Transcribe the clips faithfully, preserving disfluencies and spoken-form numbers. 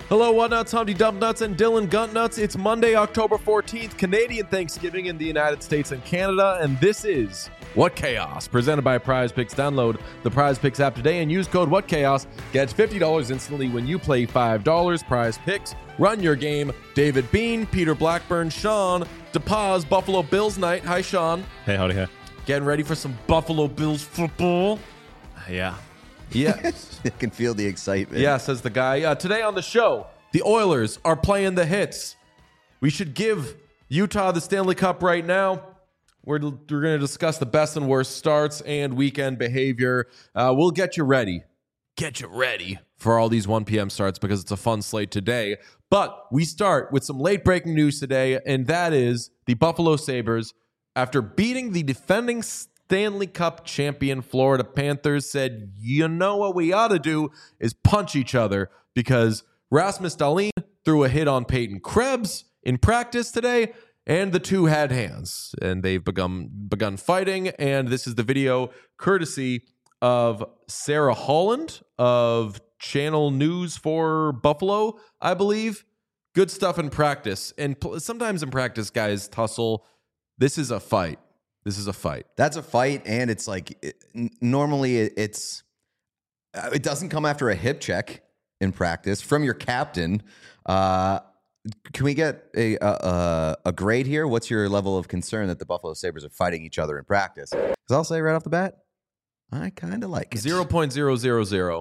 Hello, Whatnuts, Humpty Dump Nuts, and Dylan Guntnuts. It's Monday, October fourteenth, Canadian Thanksgiving in the United States and Canada, and this is What Chaos, presented by Prize Picks. Download the Prize Picks app today and use code What Chaos. Get fifty dollars instantly when you play five dollars. Prize Picks. Run your game. David Bean, Peter Blackburn, Sean DePaz, Buffalo Bills night. Hi, Sean. Hey, howdy, hey. Getting ready for some Buffalo Bills football? Yeah. Yeah. I can feel the excitement. Yeah, says the guy. Uh, today on the show, the Oilers are playing the hits. We should give Utah the Stanley Cup right now. We're, we're going to discuss the best and worst starts and weekend behavior. Uh, we'll get you ready. Get you ready for all these one p.m. starts because it's a fun slate today. But we start with some late-breaking news today, and that is the Buffalo Sabres, after beating the defending Stanley Cup champion Florida Panthers, said, you know what we ought to do is punch each other, because Rasmus Dahlin threw a hit on Peyton Krebs in practice today, and the two had hands, and they've begun begun fighting. And this is the video courtesy of Sarah Holland of Channel News for Buffalo, I believe. Good stuff in practice, and pl- sometimes in practice, guys tussle. This is a fight. This is a fight. That's a fight, and it's like it, n- normally it, it's uh, it doesn't come after a hip check in practice from your captain. Uh, can we get a, a a grade here? What's your level of concern that the Buffalo Sabres are fighting each other in practice? Because I'll say right off the bat, I kind of like it. zero point zero zero zero.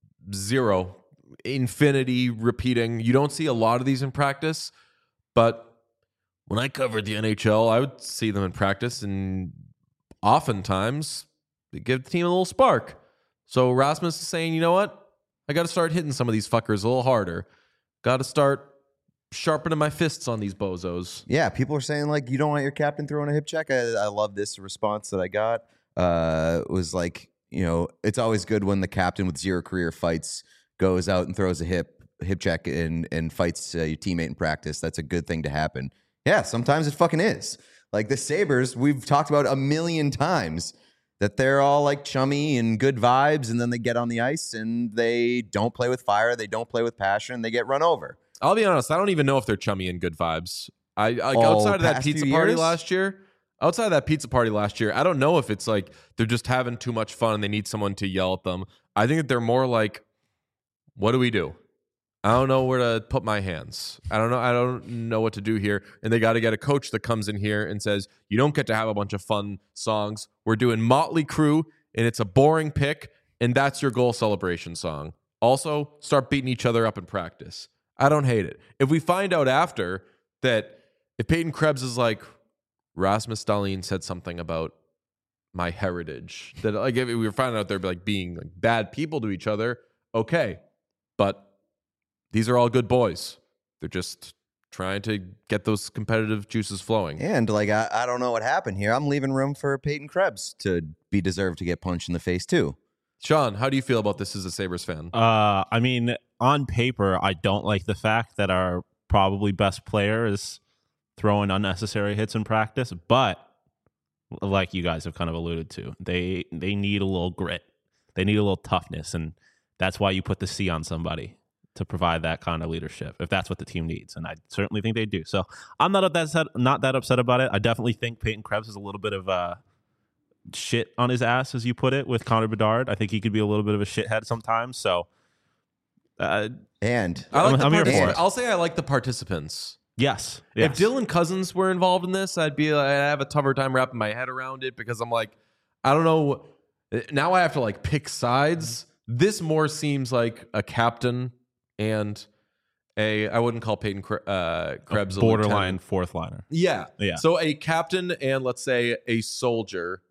Zero. Infinity repeating. You don't see a lot of these in practice, but when I covered the N H L, I would see them in practice, and oftentimes they give the team a little spark. So Rasmus is saying, you know what? I got to start hitting some of these fuckers a little harder. Got to start sharpening my fists on these bozos. Yeah, people are saying, like, you don't want your captain throwing a hip check. I, I love this response that I got. Uh, it was like, you know, it's always good when the captain with zero career fights goes out and throws a hip hip check and, and fights uh, your teammate in practice. That's a good thing to happen. Yeah, sometimes it fucking is. Like the Sabres, we've talked about a million times that they're all like chummy and good vibes, and then they get on the ice and they don't play with fire, they don't play with passion, they get run over. I'll be honest, I don't even know if they're chummy and good vibes. I like Oh, outside of that past pizza few party years? last year. Outside of that pizza party last year, I don't know if it's like they're just having too much fun and they need someone to yell at them. I think that they're more like, what do we do? I don't know where to put my hands. I don't know. I don't know what to do here. And they got to get a coach that comes in here and says, you don't get to have a bunch of fun songs. We're doing Motley Crue, and it's a boring pick, and that's your goal celebration song. Also, start beating each other up in practice. I don't hate it. If we find out after that, if Peyton Krebs is like, Rasmus Dahlin said something about my heritage, that like if we were finding out they're like being like bad people to each other, okay. But these are all good boys. They're just trying to get those competitive juices flowing. And like, I, I don't know what happened here. I'm leaving room for Peyton Krebs to be deserved to get punched in the face too. Sean, how do you feel about this as a Sabres fan? Uh, I mean, on paper, I don't like the fact that our probably best player is throwing unnecessary hits in practice, but like you guys have kind of alluded to, they they need a little grit. They need a little toughness, and that's why you put the C on somebody to provide that kind of leadership, if that's what the team needs, and I certainly think they do. So I'm not that upset, not that upset about it. I definitely think Peyton Krebs is a little bit of uh, shit on his ass, as you put it, with Connor Bedard. I think he could be a little bit of a shithead sometimes. So, uh, And I like I'm- the I'm here for particip- it. I'll say I like the participants. yes, If yes. Dylan Cousins were involved in this, I'd be I'd have a tougher time wrapping my head around it, because I'm like, I don't know. Now I have to like pick sides. This more seems like a captain and a, I wouldn't call Peyton Kre- uh, Krebs a borderline lieutenant. fourth liner. Yeah. Yeah. So a captain and let's say a soldier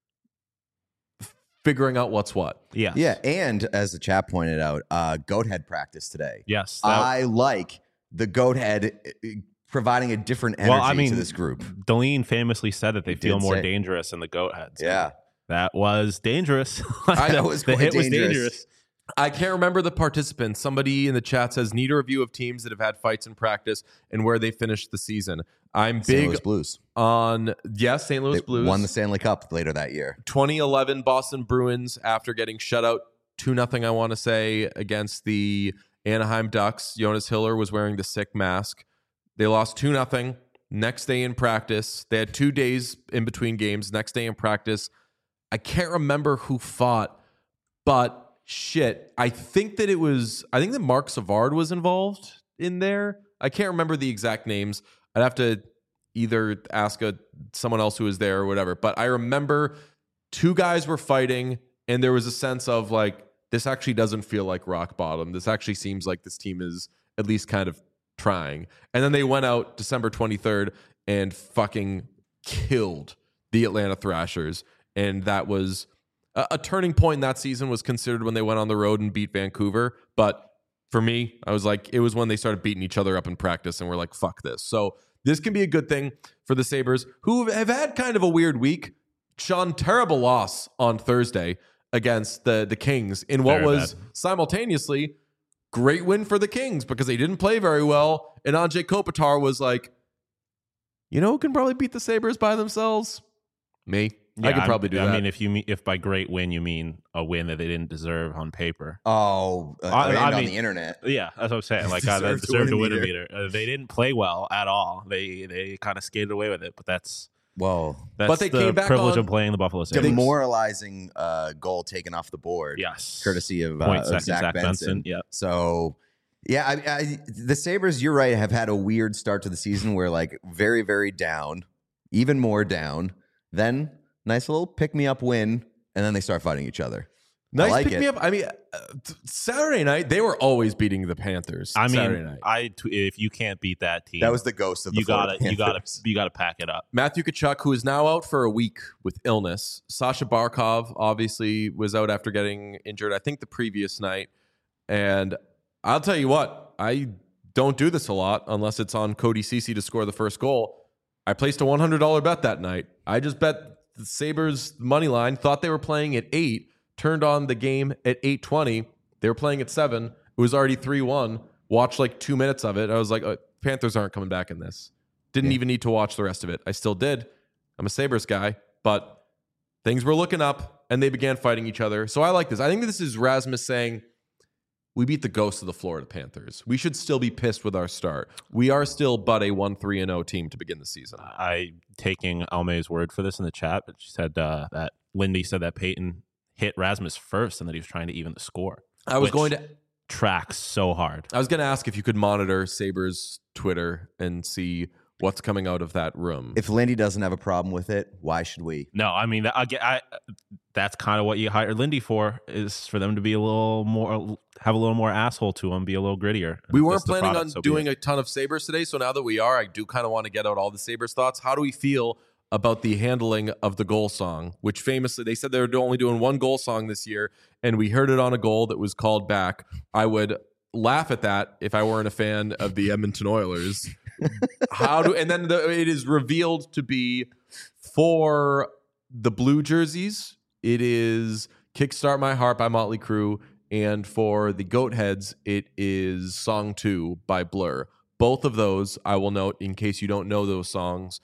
figuring out what's what. Yes. yeah, and as the chat pointed out, uh, goat head practice today. Yes. that- I like the goat head uh, providing a different energy well, I mean, to this group. Deline famously said that they He feel did more say- dangerous in the goat heads. Yeah. That was dangerous. I know it was the quite hit was dangerous. dangerous. I can't remember the participants. Somebody in the chat says, need a review of teams that have had fights in practice and where they finished the season. I'm Saint big Louis Blues. on, yes, Saint Louis They Blues. won the Stanley Cup later that year. twenty eleven Boston Bruins, after getting shut out two nothing, I want to say, against the Anaheim Ducks. Jonas Hiller was wearing the sick mask. They lost two nothing. Next day in practice, they had two days in between games. Next day in practice, I can't remember who fought, but shit, I think that it was, I think that Mark Savard was involved in there. I can't remember the exact names. I'd have to either ask a, someone else who was there or whatever. But I remember two guys were fighting, and there was a sense of like, this actually doesn't feel like rock bottom. This actually seems like this team is at least kind of trying. And then they went out December twenty-third and fucking killed the Atlanta Thrashers. And that was a, a turning point in that season, was considered when they went on the road and beat Vancouver. But for me, I was like, it was when they started beating each other up in practice and we're like, fuck this. So this can be a good thing for the Sabres, who have had kind of a weird week. Sean, terrible loss on Thursday against the, the Kings in what Very was bad. simultaneously great win for the Kings because they didn't play very well. And Andrei Kopitar was like, you know who can probably beat the Sabres by themselves? Me. I Yeah, could probably do I that. mean, if you mean, if by great win you mean a win that they didn't deserve on paper. Oh, uh, I- and I on mean- the internet. Yeah, that's what I'm saying. Like, uh, Deserved that to deserved to win win a a meter. Uh, they didn't play well at all. They they kind of skated away with it. But that's Whoa. that's But they the came back privilege on- of playing the Buffalo Sabres. Demoralizing uh, goal taken off the board. Yes, Courtesy of, uh, point of second Zach, Zach Benson. Benson. Yeah, So, yeah, I, I, the Sabres, you're right, have had a weird start to the season where, like, very, very down, even more down. Then, nice little pick-me-up win, and then they start fighting each other. Nice I like pick it. me up. I mean, uh, t- Saturday night, they were always beating the Panthers. I Saturday mean, night. I t- if you can't beat that team, That was the ghost of the you got Florida to you got to Panthers. you got to pack it up. Matthew Tkachuk, who is now out for a week with illness. Sasha Barkov obviously was out after getting injured, I think the previous night. And I'll tell you what, I don't do this a lot unless it's on Cody Ceci to score the first goal. I placed a one hundred dollars bet that night. I just bet the Sabres money line, thought they were playing at eight, turned on the game at eight twenty. They were playing at seven. It was already three one. Watched like two minutes of it. I was like, oh, Panthers aren't coming back in this. Didn't Yeah. even need to watch the rest of it. I still did. I'm a Sabres guy, but things were looking up and they began fighting each other. So I like this. I think this is Rasmus saying, we beat the ghost of the Florida Panthers. We should still be pissed with our start. We are still but a one three and oh team to begin the season. I taking Almay's word for this in the chat, but she said uh, that Lindy said that Peyton hit Rasmus first and that he was trying to even the score. I was which going to track so hard. I was going to ask if you could monitor Sabres Twitter and see what's coming out of that room. If Lindy doesn't have a problem with it, why should we? No, I mean, I, get- I that's kind of what you hired Lindy for, is for them to be a little more, have a little more asshole to them, be a little grittier. We If weren't that's the planning product, on so be doing it. a ton of Sabres today, so now that we are, I do kind of want to get out all the Sabres thoughts. How do we feel about the handling of the goal song, which famously, they said they were only doing one goal song this year, and we heard it on a goal that was called back. I would laugh at that if I weren't a fan of the Edmonton Oilers. How do and then the, it is revealed to be for the blue jerseys. It is "Kickstart My Heart" by Motley Crue, and for the Goat Heads, it is "Song Two" by Blur. Both of those, I will note, in case you don't know those songs,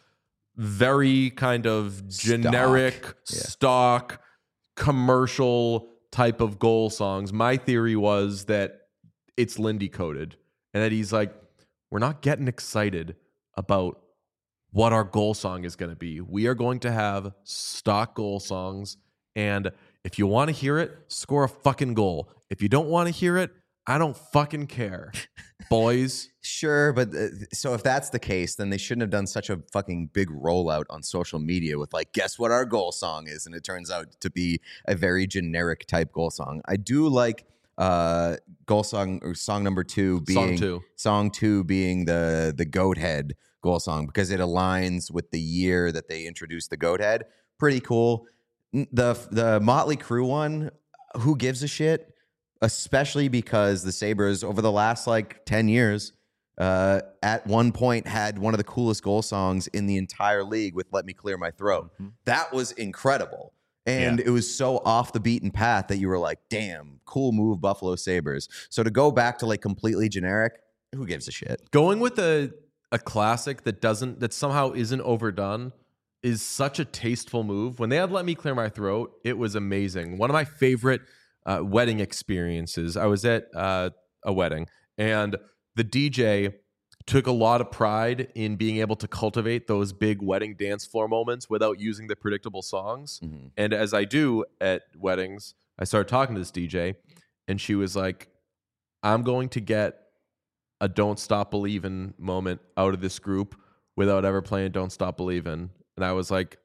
very kind of generic, Yeah. stock, commercial type of goal songs. My theory was that it's Lindy coded, and that he's like, we're not getting excited about what our goal song is going to be. We are going to have stock goal songs, and if you want to hear it, score a fucking goal. If you don't want to hear it, I don't fucking care, boys. Sure, but uh, so if that's the case, then they shouldn't have done such a fucking big rollout on social media with like, guess what our goal song is? And it turns out to be a very generic type goal song. I do like uh, goal song or song number two being Song two. song two being the the Goat Head goal song because it aligns with the year that they introduced the Goat Head. Pretty cool. N- The the Motley Crue one, who gives a shit? Especially because the Sabres over the last like ten years, uh, at one point had one of the coolest goal songs in the entire league with "Let Me Clear My Throat." Mhm. That was incredible. And Yeah. it was so off the beaten path that you were like, damn, cool move, Buffalo Sabres. So to go back to like completely generic, who gives a shit? Going with a a classic that doesn't that somehow isn't overdone is such a tasteful move. When they had "Let Me Clear My Throat," it was amazing. One of my favorite uh, wedding experiences. I was at uh, a wedding, and the D J took a lot of pride in being able to cultivate those big wedding dance floor moments without using the predictable songs. Mm-hmm. And as I do at weddings, I started talking to this D J, and she was like, I'm going to get a Don't Stop Believin' moment out of this group without ever playing Don't Stop Believin'. And I was like,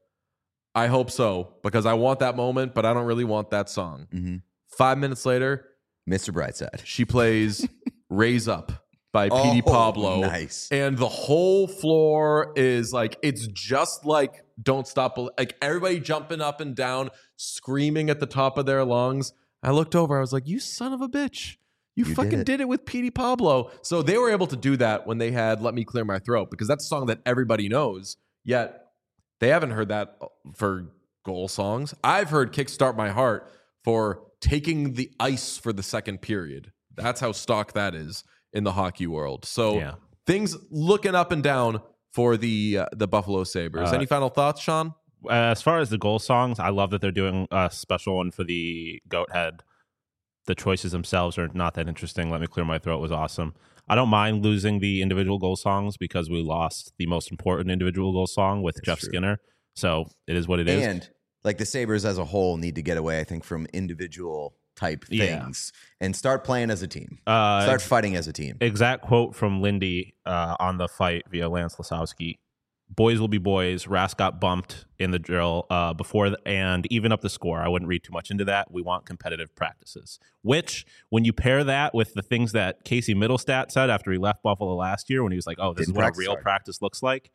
I hope so, because I want that moment, but I don't really want that song. Mm-hmm. Five minutes later, Mister Brightside. she plays Raise Up by Oh, P D Pablo. nice. And the whole floor is like, it's just like Don't Stop. Bel- Like everybody jumping up and down, screaming at the top of their lungs. I looked over, I was like, you son of a bitch. You, You fucking did did it. it. with P D Pablo. So they were able to do that when they had Let Me Clear My Throat, because that's a song that everybody knows, yet they haven't heard that for goal songs. I've heard Kickstart My Heart for taking the ice for the second period. That's how stock that is in the hockey world. So Yeah. things looking up and down for the uh, the Buffalo Sabres. Uh, Any final thoughts, Sean? As far as the goal songs, I love that they're doing a special one for the Goat Head. The choices themselves are not that interesting. Let Me Clear My Throat was awesome. I don't mind losing the individual goal songs because we lost the most important individual goal song with That's Jeff true. Skinner. So it is what it is. And like the Sabres as a whole need to get away, I think, from individual type Yeah. things and start playing as a team. Uh, Start fighting as a team. exact quote from Lindy uh, on the fight via Lance Lasowski. Boys will be boys. Rask got bumped in the drill uh, before the, and even up the score. I wouldn't read too much into that. We want competitive practices, which when you pair that with the things that Casey Middlestat said after he left Buffalo last year when he was like, oh, this Didn't is what a practice real hard. practice looks like.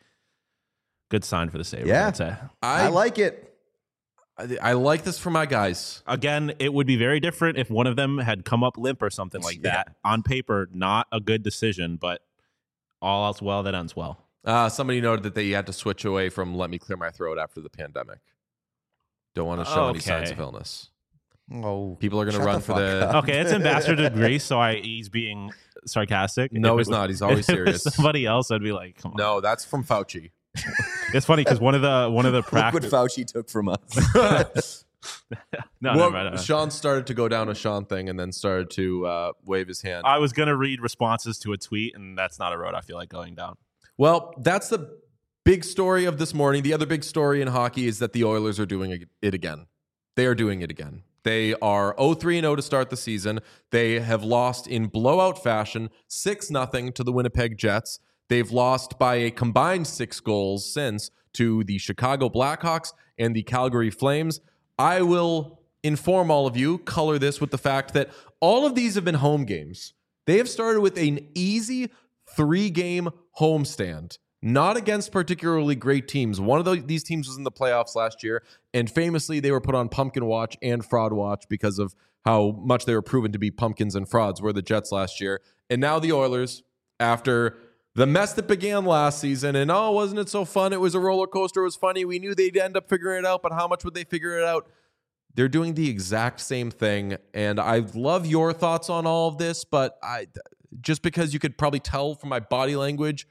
Good sign for the Sabres, Yeah. I'd say. I, like it. I, I like this for my guys. Again, it would be very different if one of them had come up limp or something like Yeah. that. On paper, not a good decision, but all else well that ends well. Uh, somebody noted that they had to switch away from Let Me Clear My Throat after the pandemic. Don't want to show any Okay. signs of illness. Oh, People are going to shut run the for fuck the... up. Okay, it's ambassador to Greece, so I he's being sarcastic. No, If he's it was- not. He's always if it was serious. somebody else, I'd be like, come on. No, that's from Fauci. It's funny because one of the one of the Look what practice. Fauci took from us. No, well, never mind, never mind. Sean started to go down a Sean thing and then started to uh, wave his hand. I was gonna read responses to a tweet, and that's not a road I feel like going down. Well, that's the big story of this morning. The other big story in hockey is that the Oilers are doing it again. They are doing it again. They are oh three and oh to start the season. They have lost in blowout fashion, six nothing to the Winnipeg Jets. They've lost by a combined six goals since to the Chicago Blackhawks and the Calgary Flames. I will inform all of you, color this with the fact that all of these have been home games. They have started with an easy three-game homestand, not against particularly great teams. One of the, these teams was in the playoffs last year, and famously they were put on Pumpkin Watch and Fraud Watch because of how much they were proven to be pumpkins and frauds, were the Jets last year. And now the Oilers, after the mess that began last season, and oh, wasn't it so fun? It was a roller coaster. It was funny. We knew they'd end up figuring it out, but how much would they figure it out? They're doing the exact same thing, and I love your thoughts on all of this, but I just because you could probably tell from my body language,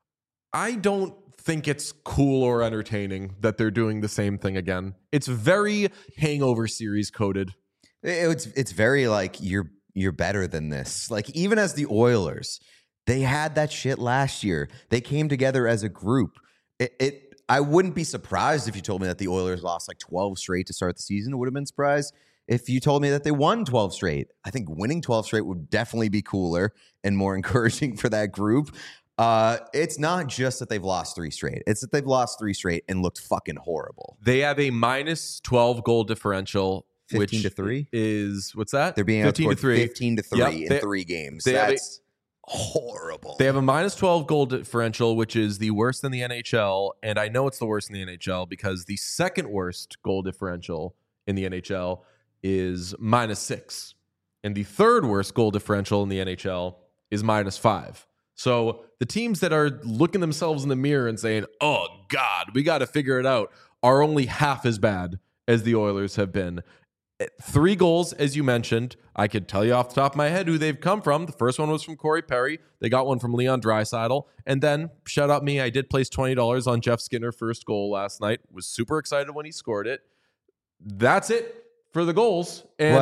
I don't think it's cool or entertaining that they're doing the same thing again. It's very Hangover series coded. It- It's it's very like you're you're better than this. Like even as the Oilers, they had that shit last year. They came together as a group. It, it I wouldn't be surprised if you told me that the Oilers lost like twelve straight to start the season. I would have been surprised if you told me that they won twelve straight. I think winning twelve straight would definitely be cooler and more encouraging for that group. Uh, it's not just that they've lost three straight. It's that they've lost three straight and looked fucking horrible. They have a minus twelve goal differential, fifteen which to three. is what's that? They're being fifteen to outscored three. fifteen to three Yep, in they- three games. they have a- That's horrible. They have a minus twelve goal differential, which is the worst in the N H L. And I know it's the worst in the N H L because the second worst goal differential in the N H L is minus six. And the third worst goal differential in the N H L is minus five. So the teams that are looking themselves in the mirror and saying, oh, God, we got to figure it out, are only half as bad as the Oilers have been. Three goals, as you mentioned. I could tell you off the top of my head who they've come from. The first one was from Corey Perry. They got one from Leon Draisaitl. And then, shout out me, I did place twenty dollars on Jeff Skinner first goal last night. Was super excited when he scored it. That's it for the goals. And Well,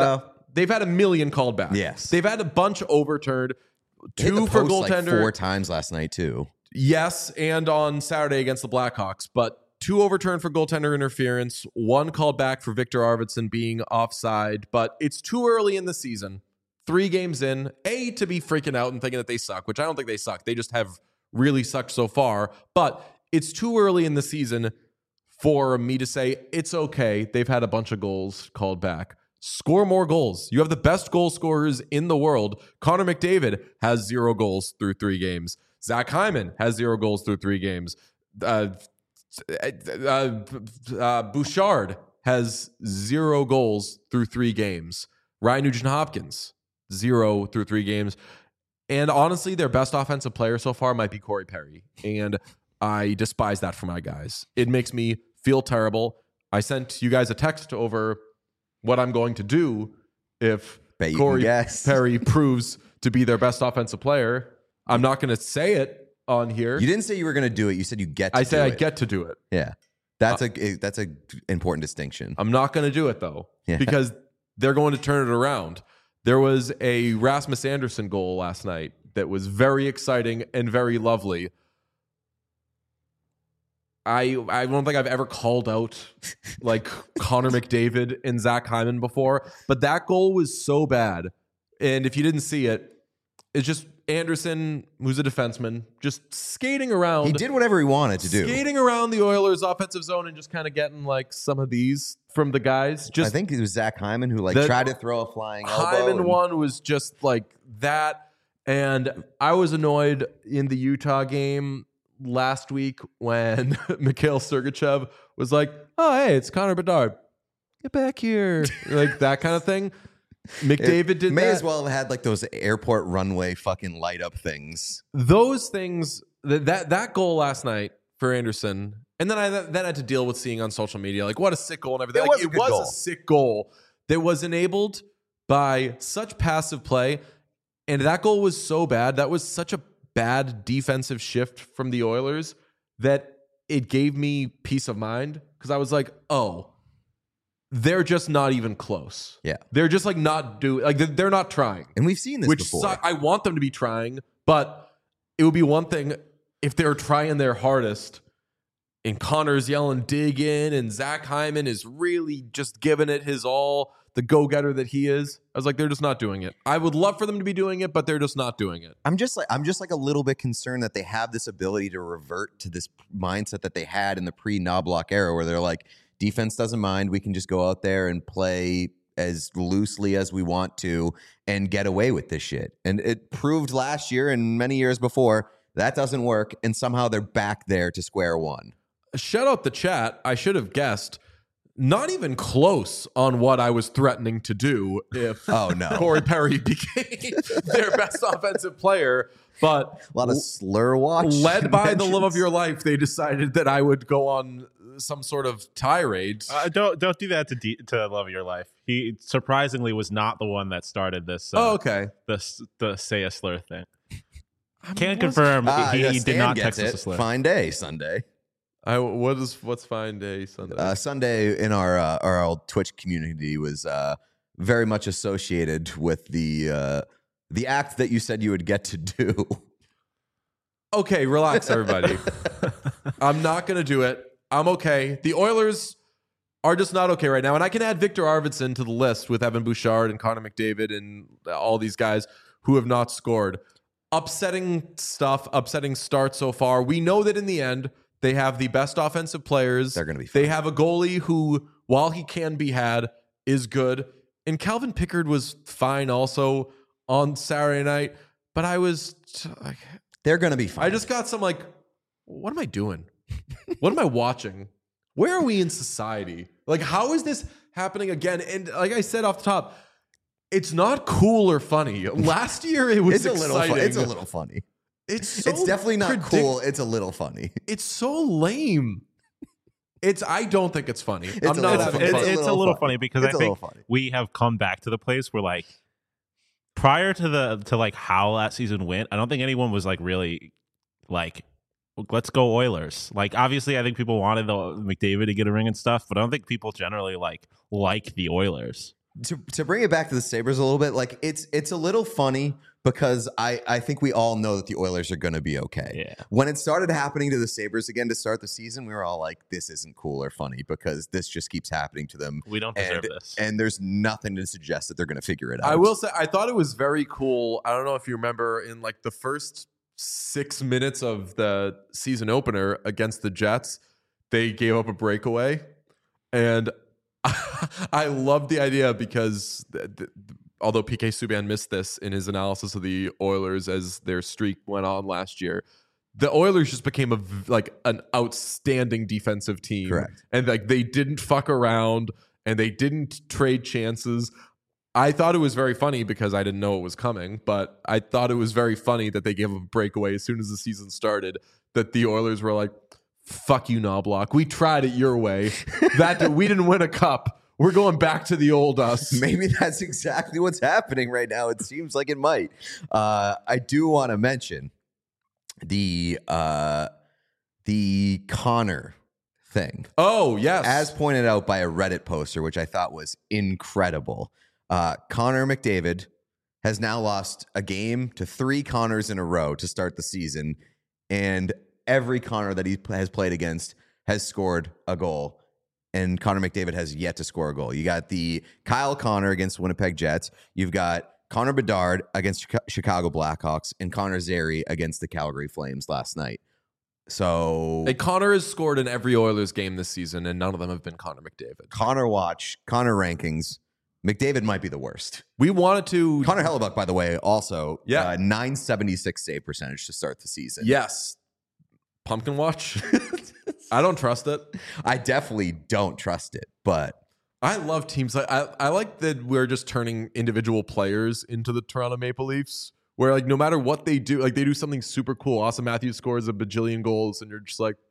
they've had a million called back. Yes. They've had a bunch overturned. They hit Two the for post, like, goaltender. four times last night too. Yes, and on Saturday against the Blackhawks, but two overturned for goaltender interference, one called back for Victor Arvidsson being offside, but it's too early in the season. Three games in, A, to be freaking out and thinking that they suck, which I don't think they suck. They just have really sucked so far, but it's too early in the season for me to say it's okay. They've had a bunch of goals called back. Score more goals. You have the best goal scorers in the world. Connor McDavid has zero goals through three games. Zach Hyman has zero goals through three games. Uh, uh, uh, Bouchard has zero goals through three games. Ryan Nugent-Hopkins, zero through three games. And honestly, their best offensive player so far might be Corey Perry. And I despise that for my guys. It makes me feel terrible. I sent you guys a text over what I'm going to do if Bet you Corey can guess. Perry proves to be their best offensive player. I'm not going to say it on here. You didn't say you were going to do it. You said you get to I do say I it. get to do it. Yeah. That's a that's a important distinction. I'm not going to do it, though, Yeah. because they're going to turn it around. There was a Rasmus Anderson goal last night that was very exciting and very lovely. I I don't think I've ever called out like Connor McDavid and Zach Hyman before, but that goal was so bad. And if you didn't see it, it's just Anderson, who's a defenseman, just skating around. He did whatever he wanted to do. Skating around the Oilers' offensive zone and just kind of getting like some of these from the guys. Just I think it was Zach Hyman who like The- tried to throw a flying elbow. Hyman and- one was just like that. And I was annoyed in the Utah game last week when Mikhail Sergachev was like, oh, hey, it's Connor Bedard. Get back here. Like that kind of thing. McDavid It did may that. as well have had like those airport runway fucking light up things. Those things, that, that that goal last night for Anderson, and then I then had to deal with seeing on social media, like, what a sick goal and everything. It Like, was a it good was goal. a sick goal that was enabled by such passive play. And that goal was so bad. That was such a bad defensive shift from the Oilers that it gave me peace of mind because I was like, oh, they're just not even close. Yeah. They're just like not doing, like they're- they're not trying. And we've seen this Which before. suck. I want them to be trying, but it would be one thing if they're trying their hardest and Connor's yelling dig in and Zach Hyman is really just giving it his all, the go-getter that he is. I was like, they're just not doing it. I would love for them to be doing it, but they're just not doing it. I'm just like I'm just like a little bit concerned that they have this ability to revert to this mindset that they had in the pre-Knobloch era where they're like, defense doesn't mind. We can just go out there and play as loosely as we want to and get away with this shit. And it proved last year and many years before that doesn't work. And somehow they're back there to square one. Shout out the chat. I should have guessed. Not even close on what I was threatening to do if Oh, no. Corey Perry became their best offensive player. But A lot of slur watch. led by the love of mentions. your life, they decided that I would go on some sort of tirade. Uh, don't don't do that to de- to love of your life. He surprisingly was not the one that started this. Uh, oh, okay. the the say a slur thing. I Can mean, confirm Ah, he, yeah, he Stan did not gets text us it. a slur. Fine day Sunday. I, what is what's fine day Sunday? Uh, Sunday in our uh, our old Twitch community was uh, very much associated with the uh, the act that you said you would get to do. Okay, relax, everybody. I'm not going to do it. I'm okay. The Oilers are just not okay right now. And I can add Victor Arvidsson to the list with Evan Bouchard and Connor McDavid and all these guys who have not scored. Upsetting stuff, upsetting start so far. We know that in the end, they have the best offensive players. They're gonna be They fine. have a goalie who, while he can be had, is good. And Calvin Pickard was fine also on Saturday night. But I was like, They're going to be fine. I just got some like, what am I doing? What am I watching? Where are we in society? Like, how is this happening again? And like I said off the top, it's not cool or funny. Last year it was it's a little. exciting. Fu- it's a little funny. It's so it's definitely not predict- cool. It's a little funny. It's so lame. It's. I don't think it's funny. It's I'm a not little having funny. It- fun. It's a it's a little little funny. funny because It's I a little think funny. we have come back to the place where like prior to the to like how that season went, I don't think anyone was like really like let's go Oilers. Like obviously I think people wanted the McDavid to get a ring and stuff, but I don't think people generally like like the Oilers. to to bring it back to the Sabres a little bit, like it's it's a little funny because I, I think we all know that the Oilers are going to be okay. Yeah. When it started happening to the Sabres again to start the season, we were all like, this isn't cool or funny because this just keeps happening to them. We don't deserve and, this. And there's nothing to suggest that they're going to figure it out. I will say, I thought it was very cool. I don't know if you remember in like the first six minutes of the season opener against the Jets, they gave up a breakaway. And I love the idea because th- th- although P K Subban missed this in his analysis of the Oilers as their streak went on last year, the Oilers just became a v- like an outstanding defensive team. Correct. And like they didn't fuck around and they didn't trade chances. I thought it was very funny because I didn't know it was coming, but I thought it was very funny that they gave a breakaway as soon as the season started, that the Oilers were like, fuck you, Knobloch. We tried it your way. That we didn't win a cup. We're going back to the old us. Maybe that's exactly what's happening right now. It seems like it might. Uh, I do want to mention the uh, the Connor thing. Oh, yes. As pointed out by a Reddit poster, which I thought was incredible. Uh, Connor McDavid has now lost a game to three Connors in a row to start the season, and every Connor that he has played against has scored a goal. And Connor McDavid has yet to score a goal. You got the Kyle Connor against Winnipeg Jets. You've got Connor Bedard against Chicago Blackhawks and Connor Zary against the Calgary Flames last night. So And Connor has scored in every Oilers game this season, and none of them have been Connor McDavid. Connor watch, Connor rankings. McDavid might be the worst. We wanted to... Connor Hellebuck, by the way, also Yeah. uh, nine seventy-six save percentage to start the season. Yes. Pumpkin watch? I don't trust it. I definitely don't trust it, but I love teams like I, I like that we're just turning individual players into the Toronto Maple Leafs, where like no matter what they do, like they do something super cool. Austin Matthews scores a bajillion goals, and you're just like,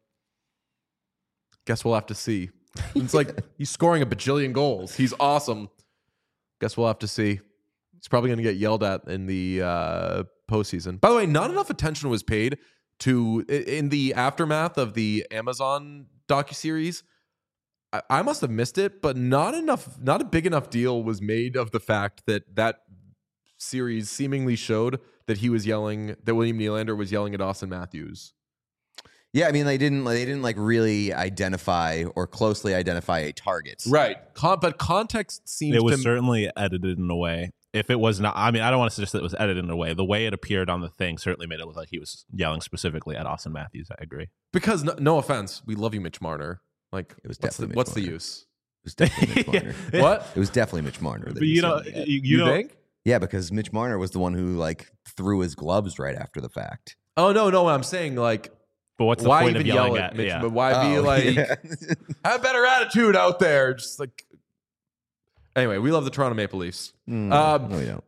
guess we'll have to see. And it's like he's scoring a bajillion goals. He's awesome. Guess we'll have to see. He's probably going to get yelled at in the uh, postseason. By the way, not enough attention was paid to in the aftermath of the Amazon docuseries. I, I must have missed it, but not enough, not a big enough deal was made of the fact that that series seemingly showed that he was yelling, that William Nylander was yelling at Austin Matthews. yeah, I mean, they didn't they didn't like really identify or closely identify a target. Right. Con- but context seems It was to certainly edited in a way. If it was not, I mean, I don't want to suggest that it was edited in a way. The way it appeared on the thing certainly made it look like he was yelling specifically at Austin Matthews. I agree. because no, no offense, we love you, Mitch Marner. Like It was what's the, definitely Mitch what's the Marner. use? It was definitely Mitch Marner. What? It was definitely Mitch Marner. that But he you know, said that. you, You, you know, think? Yeah, because Mitch Marner was the one who like threw his gloves right after the fact. Oh no, no. I'm saying like, but what's the why point even of yelling yell at? at Mitch? Yeah. But why be Oh, like, yeah. have better attitude out there? Just like. Anyway, we love the Toronto Maple Leafs. Mm, Um, no, we don't.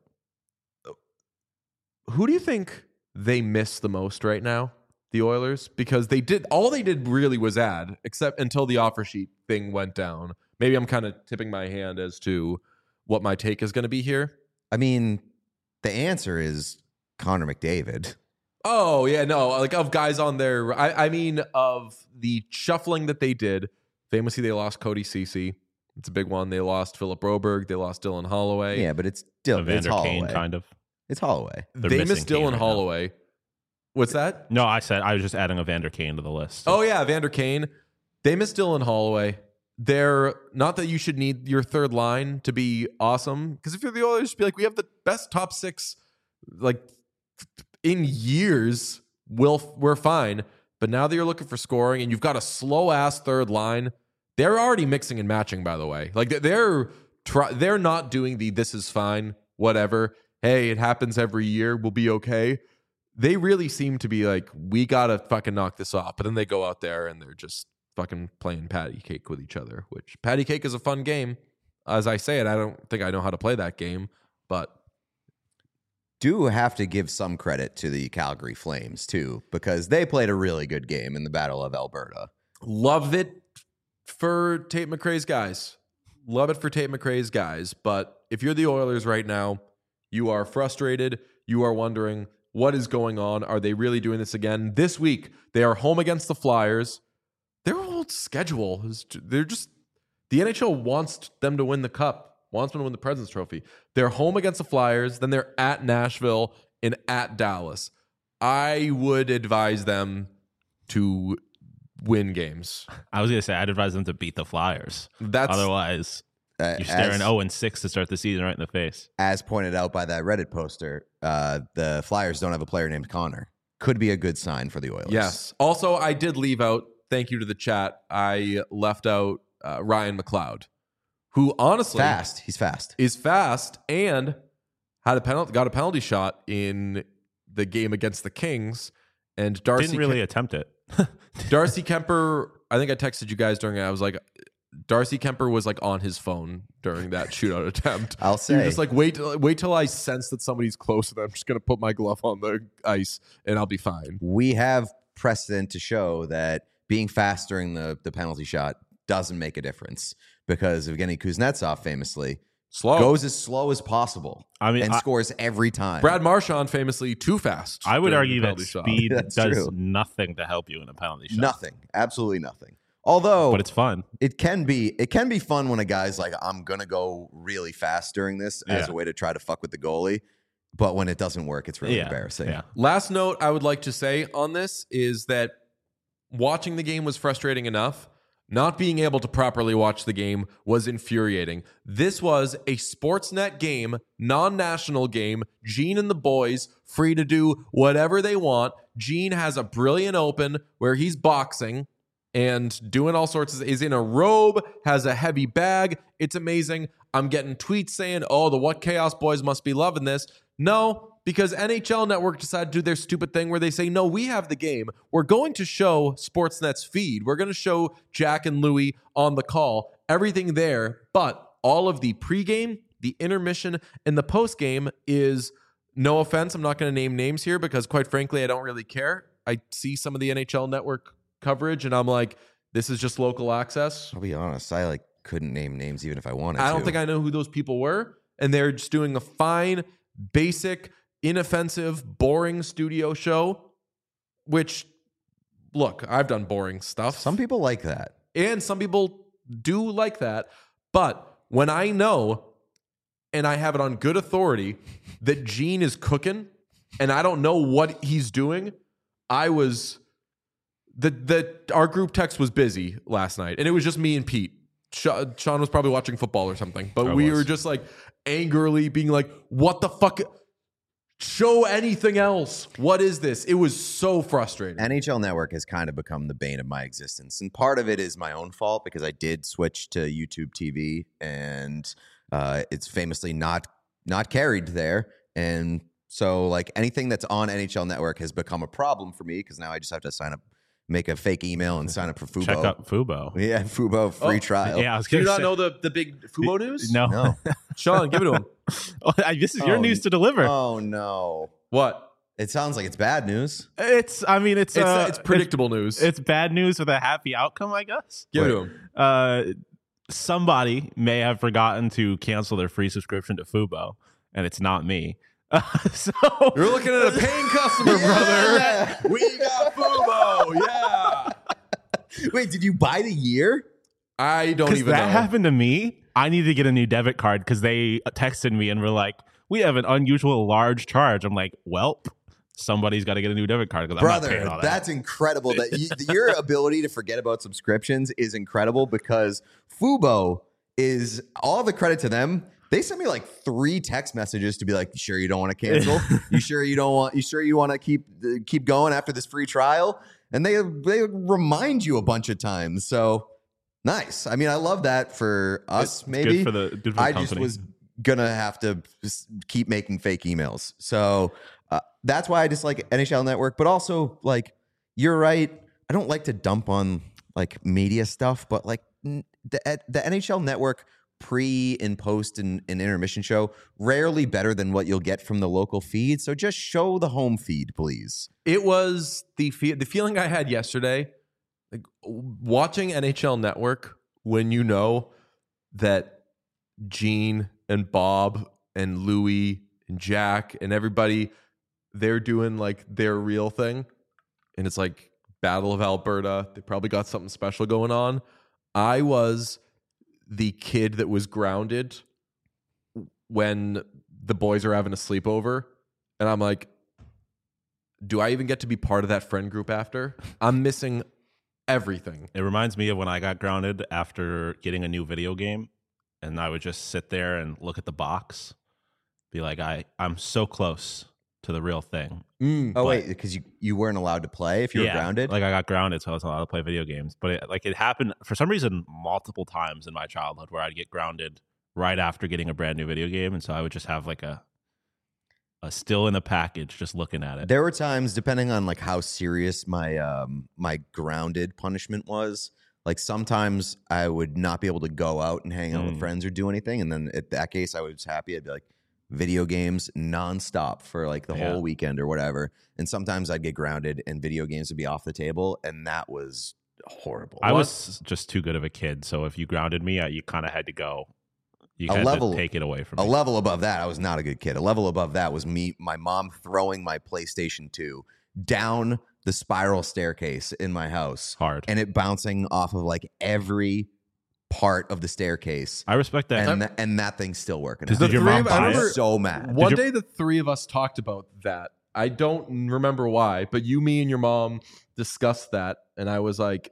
Who do you think they miss the most right now? The Oilers? Because they did all they did really was add, except until the offer sheet thing went down. Maybe I'm kind of tipping my hand as to what my take is going to be here. I mean, the answer is Connor McDavid. Oh yeah, no, like of guys on their. I, I mean of the shuffling that they did. Famously, they lost Cody Ceci. It's a big one. They lost Philip Broberg. They lost Dylan Holloway. Yeah, but it's still it's Evander Kane, Holloway. kind of. It's Holloway. They're They missing missed Kane Dylan right now. Holloway. What's that? No, I said I was just adding Evander Kane to the list. Oh yeah, Vander Kane. They missed Dylan Holloway. They're not that you should need your third line to be awesome, because if you're the Oilers, be like, we have the best top six like in years. We'll we're fine. But now that you're looking for scoring and you've got a slow ass third line, they're already mixing and matching. By the way, like they're try, they're not doing the this is fine whatever. Hey, it happens every year. We'll be okay. They really seem to be like, we gotta fucking knock this off. But then they go out there and they're just fucking playing patty cake with each other, which patty cake is a fun game. As I say it, I don't think I know how to play that game, but Do have to give some credit to the Calgary Flames too, because they played a really good game in the Battle of Alberta. love it for Tate McRae's guys. Love it for Tate McRae's guys. But if you're the Oilers right now, you are frustrated. You are wondering, what is going on? Are they really doing this again? This week, they are home against the Flyers. Their whole schedule is, they're just, the N H L wants them to win the cup. wants them to win the President's Trophy. They're home against the Flyers, then they're at Nashville and at Dallas. I would advise them to win games. I was going to say, I'd advise them to beat the Flyers. That's Otherwise, Uh, you're staring as, oh and six to start the season right in the face. as pointed out by that Reddit poster, uh, the Flyers don't have a player named Connor. Could be a good sign for the Oilers. Yes. Also, I did leave out, thank you to the chat, I left out uh, Ryan McLeod, who honestly Fast. He's fast. is fast and had a penalty, got a penalty shot in the game against the Kings. And Darcy Didn't really Kem- attempt it. Darcy Kemper, I think I texted you guys during it. I was like, Darcy Kemper was like on his phone during that shootout attempt. I'll You're say. just like, wait, wait till I sense that somebody's close and I'm just going to put my glove on the ice and I'll be fine. We have precedent to show that being fast during the, the penalty shot doesn't make a difference because Evgeny Kuznetsov famously Slow. goes as slow as possible I mean, and I- scores every time. Brad Marchand famously too fast. I would during argue the that penalty shot. speed That's does true. nothing to help you in a penalty shot. Nothing. Absolutely nothing. Although But it's fun. it can be it can be fun when a guy's like, I'm gonna go really fast during this as Yeah. a way to try to fuck with the goalie. But when it doesn't work, it's really Yeah. embarrassing. Yeah. Last note I would like to say on this is that watching the game was frustrating enough. Not being able to properly watch the game was infuriating. This was a Sportsnet game, non-national game. Gene and the boys free to do whatever they want. Gene has a brilliant open where he's boxing and doing all sorts of, is in a robe, has a heavy bag. It's amazing. I'm getting tweets saying, oh, the What Chaos boys must be loving this. No, because N H L Network decided to do their stupid thing where they say, no, we have the game. We're going to show Sportsnet's feed. We're going to show Jack and Louie on the call, everything there. But all of the pregame, the intermission, and the postgame is, no offense, I'm not going to name names here because quite frankly, I don't really care. I see some of the N H L Network coverage and I'm like, this is just local access. I'll be honest, I like couldn't name names even if I wanted to. I don't think I know who those people were. And they're just doing a fine, basic, inoffensive, boring studio show, which, look, I've done boring stuff. Some people like that. And some people do like that. But when I know, and I have it on good authority, that Gene is cooking, and I don't know what he's doing, I was... The, the our group text was busy last night, and it was just me and Pete. Sean was probably watching football or something, but I we was. were just like angrily being like, what the fuck? Show anything else. What is this? It was so frustrating. N H L Network has kind of become the bane of my existence. And part of it is my own fault because I did switch to YouTube T V and uh, it's famously not not carried there. And so like anything that's on N H L Network has become a problem for me because now I just have to sign up, make a fake email and sign up for Fubo. Check out Fubo. Yeah, Fubo free Oh, trial. Yeah, I was Do you gonna not say, know the, the big Fubo news? No, No. Sean, give it to him. Oh, I- this is your Oh, news to deliver. Oh no. What? It sounds like it's bad news. It's, I mean, it's It's, uh, it's predictable news. It's, it's bad news with a happy outcome, I guess. give it Wait. to him. Uh, somebody may have forgotten to cancel their free subscription to Fubo, and it's not me. Uh, so You're looking at a paying customer, Yeah. brother. We got Fubo. Yeah. Wait, did you buy the year? I don't because even that know. happened to me. I need to get a new debit card because they texted me and were like, "We have an unusual large charge." I'm like, "Welp, somebody's got to get a new debit card because I'm not paying Brother, all that." that's incredible. That you, your ability to forget about subscriptions is incredible because Fubo is all the credit to them. They sent me like three text messages to be like, "You sure you don't want to cancel? You sure you don't want? You sure you want to keep uh, keep going after this free trial?" And they they remind you a bunch of times. So nice. I mean, I love that for us. It's maybe good for the, good for the I company. just was gonna have to s- keep making fake emails. So uh, that's why I dislike N H L Network. But also, like, you're right. I don't like to dump on like media stuff, but like n- the at- the N H L Network pre and post and, and intermission show rarely better than what you'll get from the local feed. So just show the home feed, please. It was the fe- the feeling I had yesterday, like watching N H L Network when you know that Gene and Bob and Louie and Jack and everybody, they're doing like their real thing. And it's like Battle of Alberta. They probably got something special going on. I was the kid that was grounded when the boys are having a sleepover, and I'm like, do I even get to be part of that friend group after? I'm missing everything. It reminds me of when I got grounded after getting a new video game, and I would just sit there and look at the box, be like, I, I'm so close to the real thing. Mm, Oh But- wait, because you, you weren't allowed to play if you were Yeah, grounded. Like I got grounded, so I wasn't allowed to play video games. But it, like it happened for some reason multiple times in my childhood where I'd get grounded right after getting a brand new video game, and so I would just have like a a still in the package, just looking at it. There were times, depending on like how serious my um my grounded punishment was. Like sometimes I would not be able to go out and hang out Mm. with friends or do anything, and then in that case, I was happy. I'd be like video games nonstop for like the Yeah. whole weekend or whatever. And sometimes I'd get grounded, and video games would be off the table, and that was horrible. I What? was just too good of a kid, so if you grounded me, I, you kind of had to go. You A had level- to take it away from A me. level above that, I was not a good kid. A level above that was me, my mom throwing my PlayStation two down the spiral staircase in my house, Hard. and it bouncing off of like every part of the staircase, I respect that. and tha- and that thing's still working. Did out. your The three mom of- I buy remember- it? So mad. One your- day, the three of us talked about that. I don't remember why, but you, me, and your mom discussed that, and I was like,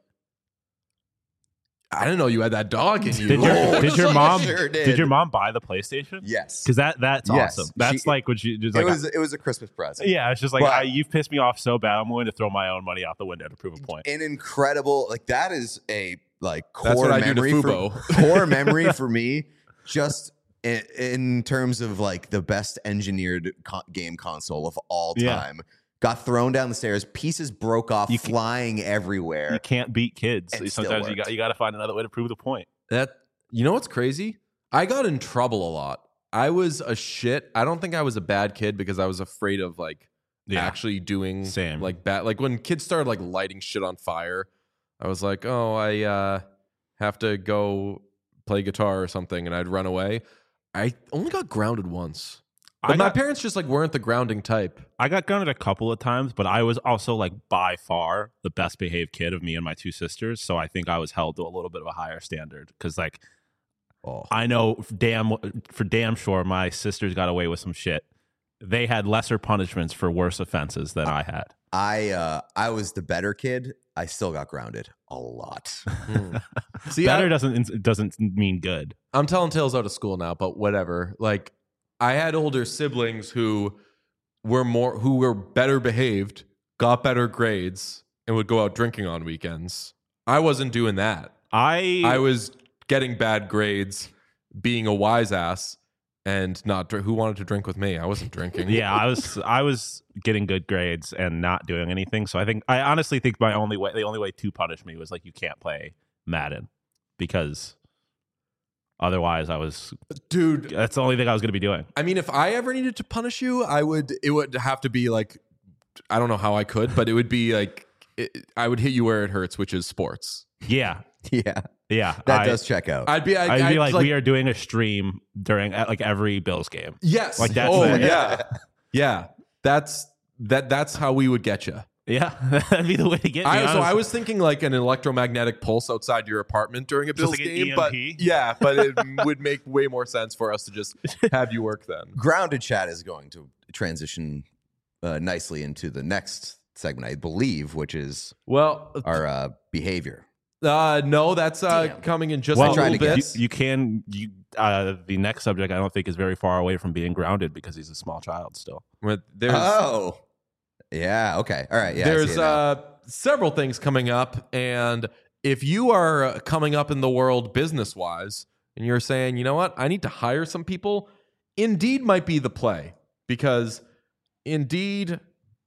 I didn't know you had that dog in you. Did your Oh, did your I mom sure did. did. your mom buy the PlayStation? Yes, Because that that's Yes. awesome. That's She- like what you just it like. was it was a Christmas present. yeah, it's just like But- I, you've pissed me off so bad. I'm willing to throw my own money out the window to prove a point. An incredible, like that is a like core That's what I do to memory for Fubo. core memory for me. Just in, in terms of like the best engineered co- game console of all Yeah. time. Got thrown down the stairs, pieces broke off, You can- flying everywhere. You can't beat kids. And still Sometimes you worked. got you got to find another way to prove the point. That you know what's crazy? I got in trouble a lot. I was a shit. I don't think I was a bad kid because I was afraid of like Yeah. actually doing Same. like bad. Like when kids started like lighting shit on fire, I was like, oh, I uh, have to go play guitar or something, and I'd run away. I only got grounded once. But I my got, parents just like weren't the grounding type. I got grounded a couple of times, but I was also like by far the best behaved kid of me and my two sisters. So I think I was held to a little bit of a higher standard because like Oh. I know damn for damn sure my sisters got away with some shit. They had lesser punishments for worse offenses than I had. I uh, I was the better kid. I still got grounded a lot. See, Better I, doesn't doesn't mean good. I'm telling tales out of school now, but whatever. Like I had older siblings who were more who were better behaved, got better grades, and would go out drinking on weekends. I wasn't doing that. I I was getting bad grades, being a wise ass, and not dr- who wanted to drink with me. I wasn't drinking. yeah, I was I was getting good grades and not doing anything. So I think I honestly think my only way the only way to punish me was like you can't play Madden because otherwise I was dude. that's the only thing I was going to be doing. I mean, if I ever needed to punish you, I would. It would have to be like, I don't know how I could, but it would be like, it, I would hit you where it hurts, which is sports. Yeah, Yeah, yeah. that I, does check out. I'd be. I, I'd be I'd like, we are doing a stream during at like every Bills game. Yes. like that's Oh the- yeah, yeah. That's that. That's how we would get you. Yeah, that'd be the way to get me. I, so I honestly. was thinking like an electromagnetic pulse outside your apartment during a Just Bills like an game, E M but P? yeah, but it would make way more sense for us to just have you work then. Grounded chat is going to transition uh, nicely into the next segment, I believe, which is Well, our uh, behavior. uh, no, that's uh, Damn. coming in just well, a tried little to bit. guess. You, you can you uh, the next subject I don't think is very far away from being grounded because he's a small child still. With- There's Oh, yeah. Okay. All right. Yeah. I see there's it now. uh, several things coming up, and if you are coming up in the world business wise, and you're saying, you know what, I need to hire some people, Indeed might be the play because Indeed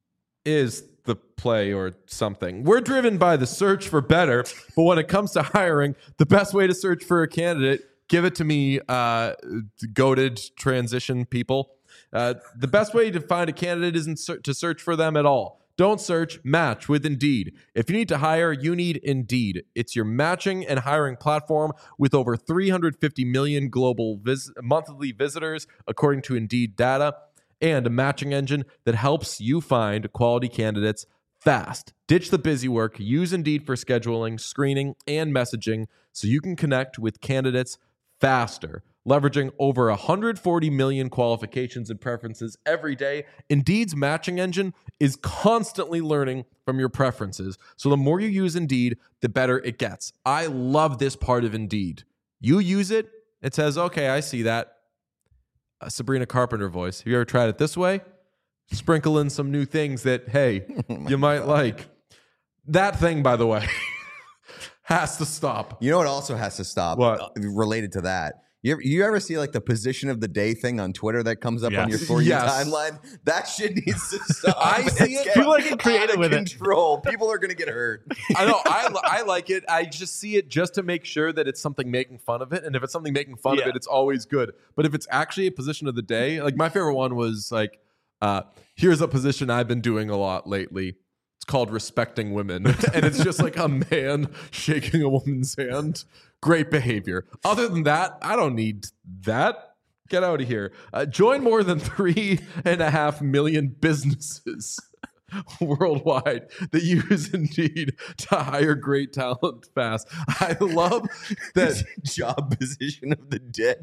is the play or something. We're driven by the search for better, but when it comes to hiring, the best way to search for a candidate, give it to me, uh, goated transition people. Uh, the best way to find a candidate isn't ser- to search for them at all. Don't search, match with Indeed. If you need to hire, you need Indeed. It's your matching and hiring platform with over three hundred fifty million global vis- monthly visitors, according to Indeed data, and a matching engine that helps you find quality candidates fast. Ditch the busy work. Use Indeed for scheduling, screening, and messaging so you can connect with candidates faster. Leveraging over one hundred forty million qualifications and preferences every day, Indeed's matching engine is constantly learning from your preferences. So the more you use Indeed, the better it gets. I love this part of Indeed. You use it, it says, okay, I see that. Uh, Sabrina Carpenter voice. Have you ever tried it this way? Sprinkle in some new things that, hey, oh you might God. like. That thing, by the way, has to stop. You know what also has to stop? What? Related to that. You ever, you ever see like the position of the day thing on Twitter that comes up yes. on your For You yes. timeline? That shit needs to stop. I see it. People are getting creative with control. it. People are going to get hurt. I know. I, I like it. I just see it just to make sure that it's something making fun of it. And if it's something making fun yeah. of it, it's always good. But if it's actually a position of the day, like my favorite one was like, uh, here's a position I've been doing a lot lately. It's called respecting women. And it's just like a man shaking a woman's hand. Great behavior. Other than that, I don't need that. Get out of here. Uh, join more than three and a half million businesses worldwide that use Indeed to hire great talent fast. I love that job position of the day.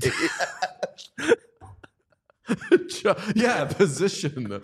Yeah, position.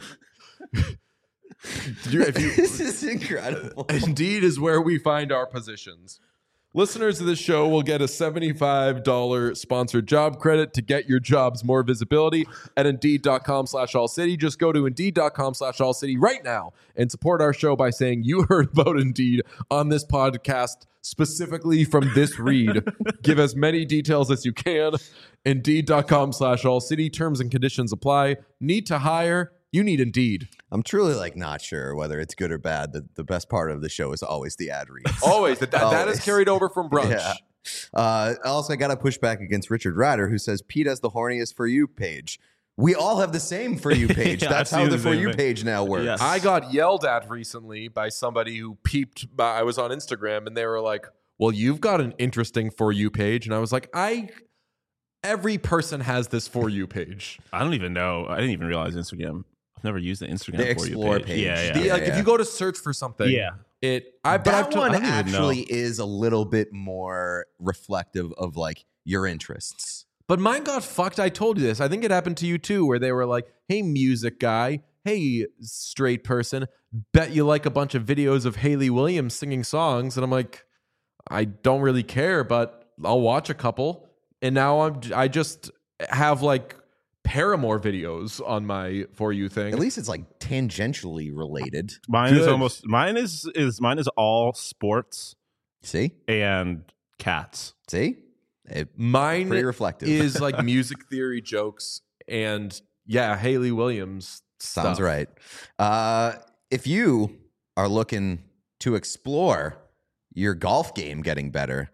You, if you, this is incredible. Indeed is where we find our positions. Listeners of this show will get a seventy-five dollars sponsored job credit to get your jobs more visibility at Indeed.com slash All City. Just go to Indeed.com slash All City right now and support our show by saying you heard about Indeed on this podcast, specifically from this read. Give as many details as you can. Indeed.com slash All City. Terms and conditions apply. Need to hire? You need Indeed. I'm truly like not sure whether it's good or bad. The, the best part of the show is always the ad reads. Always. That, always. That is carried over from brunch. Yeah. Uh, also, I got to push back against Richard Ryder, who says Pete has the horniest For You page. We all have the same For You page. yeah, That's how the For You page now works. Yes. I got yelled at recently by somebody who peeped. By, I was on Instagram, and they were like, well, you've got an interesting For You page. And I was like, I... Every person has this For You page. I don't even know. I didn't even realize Instagram. I've never used the Instagram the For Explore You page. page. Yeah, yeah. The, yeah like yeah. if you go to search for something, yeah, it. I, but that I've t- one I actually is a little bit more reflective of like your interests. But mine got fucked. I told you this. I think it happened to you too, where they were like, "Hey, music guy. Hey, straight person. Bet you like a bunch of videos of Hayley Williams singing songs." And I'm like, I don't really care, but I'll watch a couple. And now I'm. I just have like Paramore videos on my For You thing. At least it's like tangentially related. Mine Good. is almost mine is is mine is all sports. See? And cats. See? It, mine pretty reflective. is like music theory jokes and yeah, Hayley Williams Sounds stuff. right. Uh, if you are looking to explore your golf game getting better,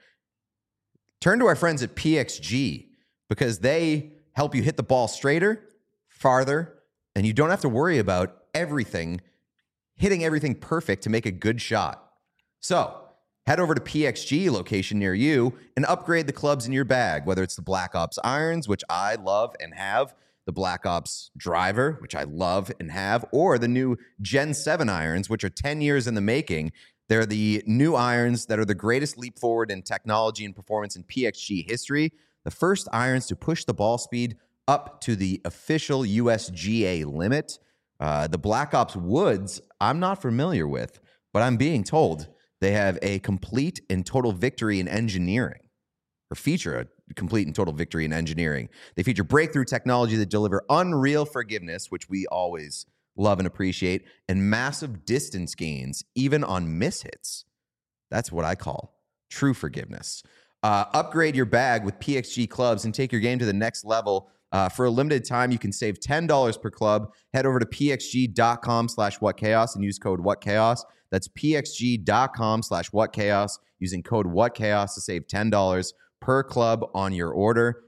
turn to our friends at P X G because they help you hit the ball straighter, farther, and you don't have to worry about everything, hitting everything perfect to make a good shot. So head over to P X G location near you and upgrade the clubs in your bag, whether it's the Black Ops irons, which I love and have, the Black Ops driver, which I love and have, or the new Gen seven irons, which are ten years in the making. They're the new irons that are the greatest leap forward in technology and performance in P X G history. The first irons to push the ball speed up to the official U S G A limit. Uh, the Black Ops Woods, I'm not familiar with, but I'm being told they have a complete and total victory in engineering, or feature a complete and total victory in engineering. They feature breakthrough technology that deliver unreal forgiveness, which we always love and appreciate, and massive distance gains, even on mishits. That's what I call true forgiveness. Uh, upgrade your bag with P X G clubs and take your game to the next level. Uh, for a limited time, you can save ten dollars per club. Head over to pxg.com slash whatchaos and use code whatchaos. That's pxg.com slash whatchaos using code whatchaos to save ten dollars per club on your order.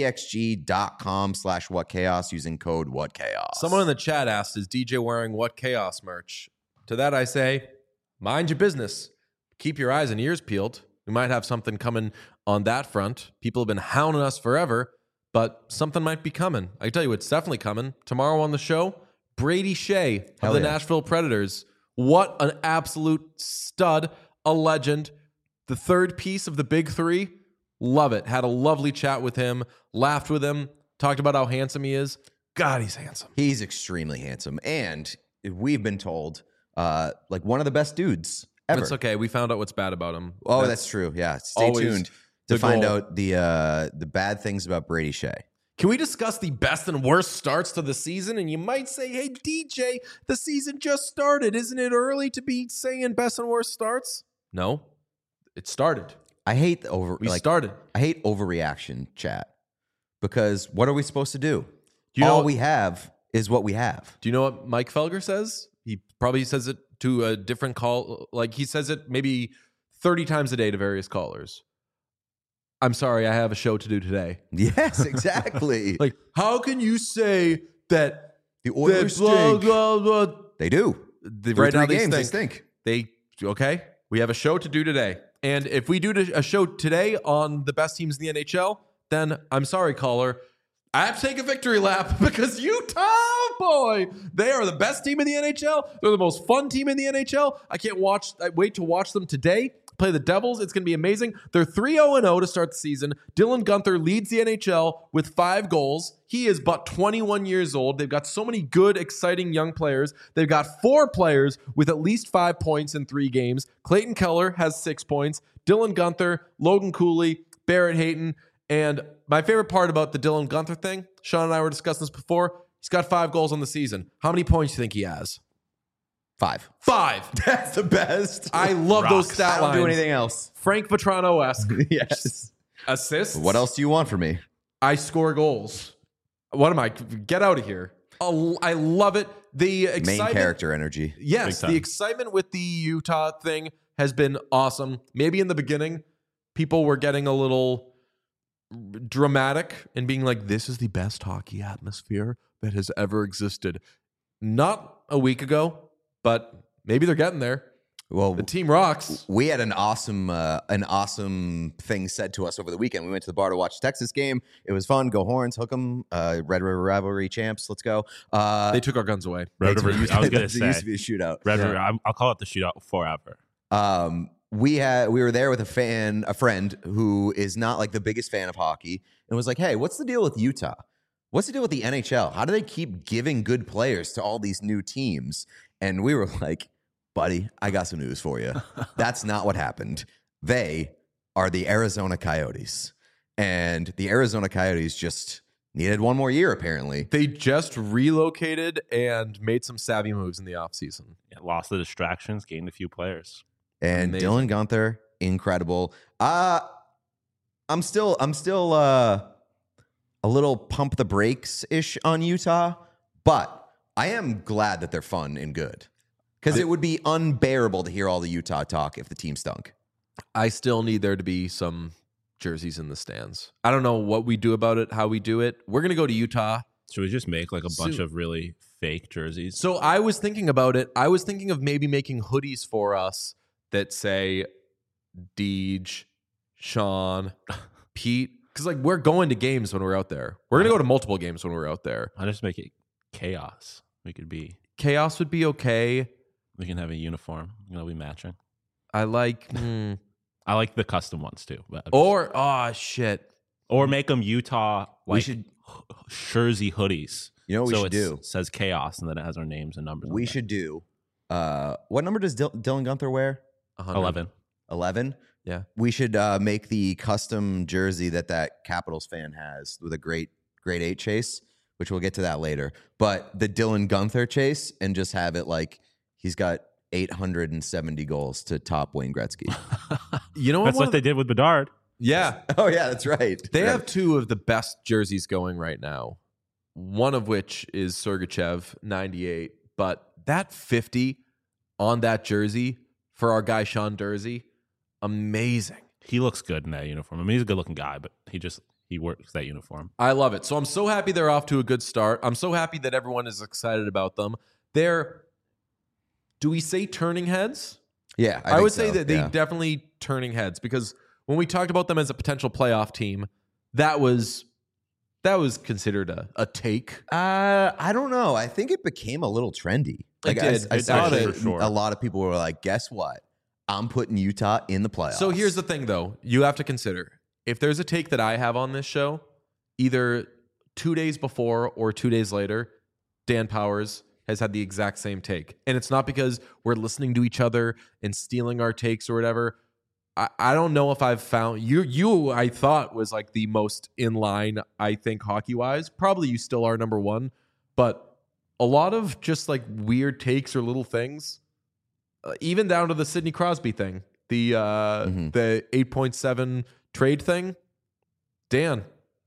pxg.com slash whatchaos using code whatchaos. Someone in the chat asked, is D J wearing What Chaos merch? To that I say, mind your business. Keep your eyes and ears peeled. We might have something coming on that front. People have been hounding us forever, but something might be coming. I can tell you it's definitely coming. Tomorrow on the show, Brady Shea of Hell the yeah. Nashville Predators. What an absolute stud, a legend. The third piece of the big three. Love it. Had a lovely chat with him, laughed with him, talked about how handsome he is. God, he's handsome. He's extremely handsome. And we've been told, uh, like, one of the best dudes ever. It's okay. We found out what's bad about him. Oh, that's, that's true. Yeah. Stay tuned to find goal. out the uh, the bad things about Brady Shea. Can we discuss the best and worst starts to the season? And you might say, hey, D J, the season just started. Isn't it early to be saying best and worst starts? No, it started. I hate the over. We like, started. I hate overreaction chat because what are we supposed to do? do you All know, we have is what we have. Do you know what Mike Felger says? He probably says it to a different call. Like he says it maybe thirty times a day to various callers. I'm sorry, I have a show to do today. Yes, exactly. Like, how can you say that the Oilers that blah, stink? blah, blah. They do. The, Through right three now they games, stink. they stink. They okay. We have a show to do today, and if we do a show today on the best teams in the N H L, then I'm sorry, caller. I have to take a victory lap because Utah, boy, they are the best team in the N H L. They're the most fun team in the N H L. I can't watch. I wait to watch them today. Play the Devils. It's going to be amazing. They're three oh and oh to start the season. Dylan Guenther leads the N H L with five goals. He is but twenty-one years old. They've got so many good, exciting young players. They've got four players with at least five points in three games. Clayton Keller has six points. Dylan Guenther, Logan Cooley, Barrett Hayton. And my favorite part about the Dylan Guenther thing, Sean and I were discussing this before, he's got five goals on the season. How many points do you think he has? Five. Five. That's the best. I love Rocks. those stat I don't lines. do anything else. Frank Vetrano-esque. Yes. Assists. What else do you want from me? I score goals. What am I? Get out of here. Oh, I love it. The excitement. Main character energy. Yes, the excitement with the Utah thing has been awesome. Maybe in the beginning, people were getting a little dramatic and being like, this is the best hockey atmosphere that has ever existed. Not a week ago, but maybe they're getting there. Well, The team rocks. we had an awesome, uh, an awesome thing said to us over the weekend. We went to the bar to watch the Texas game. It was fun. Go Horns, hook 'em. Uh, Red River Rivalry champs. Let's go. Uh, They took our guns away. Red they- River, I was going to it say used to be a shootout. Red Yeah. River. I'm- I'll call it the shootout forever. Um, we had we were there with a fan, a friend who is not like the biggest fan of hockey, and was like, "Hey, what's the deal with Utah? What's the deal with the N H L? How do they keep giving good players to all these new teams?" And we were like, "Buddy, I got some news for you. That's not what happened. They are the Arizona Coyotes, and the Arizona Coyotes just needed one more year, apparently." They just relocated and made some savvy moves in the offseason. Yeah, lost the distractions, gained a few players. And Amazing. Dylan Guenther, incredible. Uh I'm still I'm still uh a little pump the brakes ish on Utah, but I am glad that they're fun and good. Because it would be unbearable to hear all the Utah talk if the team stunk. I still need there to be some jerseys in the stands. I don't know what we do about it, how we do it. We're going to go to Utah. Should we just make like a bunch Soon. of really fake jerseys? So I was thinking about it. I was thinking of maybe making hoodies for us that say Deej, Sean, Pete. Because like we're going to games when we're out there. We're going to go to multiple games when we're out there. I'll just make it chaos. We could be, Chaos would be okay. we can have a uniform. You know, we matching. I like... hmm. I like the custom ones too. But Or, oh, shit. or make them Utah like We should- jersey hoodies. You know what we so should it do? says chaos and then it has our names and numbers. We on there. should do uh what number does Dil- Dylan Guenther wear? one hundred. eleven. eleven? Yeah. We should uh make the custom jersey that that Capitals fan has with a great grade eight chase, which we'll get to that later. But the Dylan Guenther chase and just have it like he's got eight hundred seventy goals to top Wayne Gretzky. You know That's one what of they did with Bedard. the- Yeah. Oh yeah, that's right. They Right. have two of the best jerseys going right now. One of which is Sergachev ninety-eight, but that fifty on that jersey for our guy Sean Dursey, amazing. He looks good in that uniform. I mean, he's a good looking guy, but he just he works that uniform. I love it. So I'm so happy they're off to a good start. I'm so happy that everyone is excited about them. They're, do we say turning heads? Yeah, I, I, think would say so, that they yeah. definitely turning heads because when we talked about them as a potential playoff team, that was that was considered a, a take. Uh, I don't know. I think it became a little trendy. Like I, did. I It saw did, that for sure. a lot of people were like, "Guess what? I'm putting Utah in the playoffs." So here's the thing, though. You have to consider if there's a take that I have on this show, either two days before or two days later, Dan Powers has had the exact same take. And it's not because we're listening to each other and stealing our takes or whatever. I, I don't know if I've found you, you, I thought was like the most in line, I think, hockey wise. Probably you still are number one, but a lot of just like weird takes or little things, uh, even down to the Sidney Crosby thing, the, uh, mm-hmm. the eight point seven trade thing. Dan.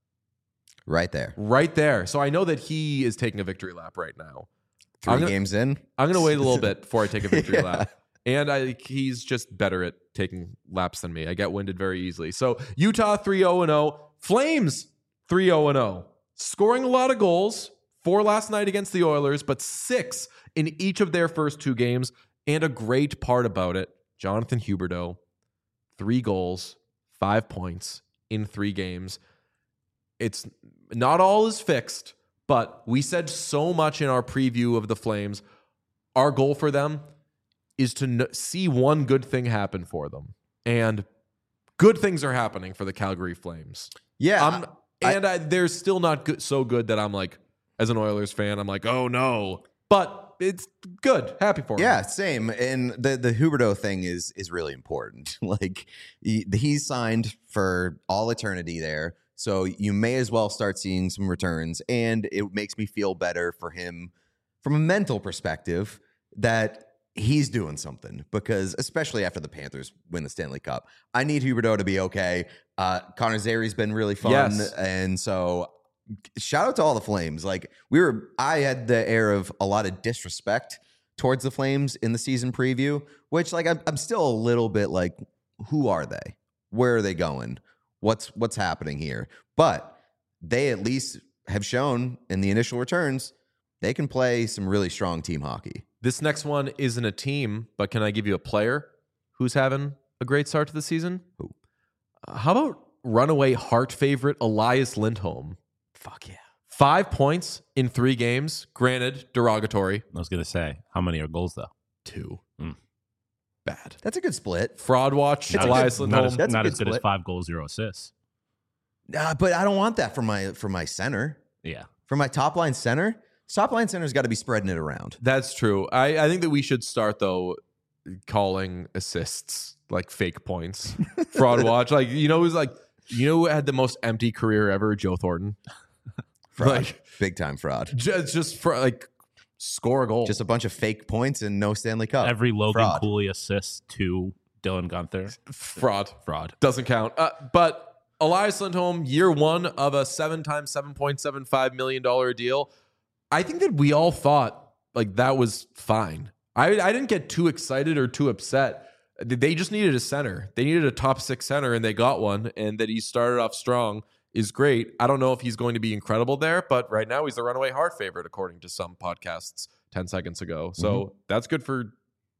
Right there. Right there. So I know that he is taking a victory lap right now. Three gonna, games in. I'm going to wait a little bit before I take a victory yeah. lap. And I, he's just better at taking laps than me. I get winded very easily. So Utah three oh and oh. Flames three oh and oh. Scoring a lot of goals. Four last night against the Oilers, but six in each of their first two games. And a great part about it, Jonathan Huberdeau, three goals, five points in three games. It's not all is fixed, but we said so much in our preview of the Flames. Our goal for them is to n- see one good thing happen for them. And good things are happening for the Calgary Flames. Yeah. I'm, and I, I, they're still not good, so good that I'm like, as an Oilers fan, I'm like, oh no. But it's good. Happy for him. Yeah, same. And the, the Huberdeau thing is is really important. Like, he, he's signed for all eternity there. So you may as well start seeing some returns. And it makes me feel better for him from a mental perspective that he's doing something, because especially after the Panthers win the Stanley Cup, I need Huberdeau to be okay. Uh, Connor Zary's been really fun. Yes. And so shout out to all the Flames. Like, we were, I had the air of a lot of disrespect towards the Flames in the season preview, which like I'm, I'm still a little bit like, who are they? Where are they going? What's what's happening here? But they at least have shown in the initial returns they can play some really strong team hockey. This next one isn't a team, but can I give you a player who's having a great start to the season? Who? Uh, how about runaway Hart favorite Elias Lindholm? Fuck yeah. Five points in three games. Granted, derogatory. I was going to say, how many are goals, though? Two. Mm. Bad. That's a good split. Fraud watch. Not Elias as, Lindholm. Not as, That's not a as good good as split. five goals, zero assists. Uh, but I don't want that for my for my center. Yeah. For my top line center, top line center's got to be spreading it around. That's true. I, I think that we should start, though, calling assists like fake points. Fraud watch. Like, you know, who's like, you know who had the most empty career ever? Joe Thornton. Fraud. Like, big time fraud. Just, just for like score a goal. Just a bunch of fake points and no Stanley Cup. Every Logan Fraud. Cooley assist to Dylan Gunther. fraud. Fraud. Doesn't count. Uh, but Elias Lindholm, year one of a seven times seven point seven five million dollars deal. I think that we all thought like that was fine. I, I didn't get too excited or too upset. They just needed a center. They needed a top six center, and they got one. And that he started off strong is great. I don't know if he's going to be incredible there, but right now he's the runaway Hart favorite, according to some podcasts ten seconds ago. So mm-hmm. that's good for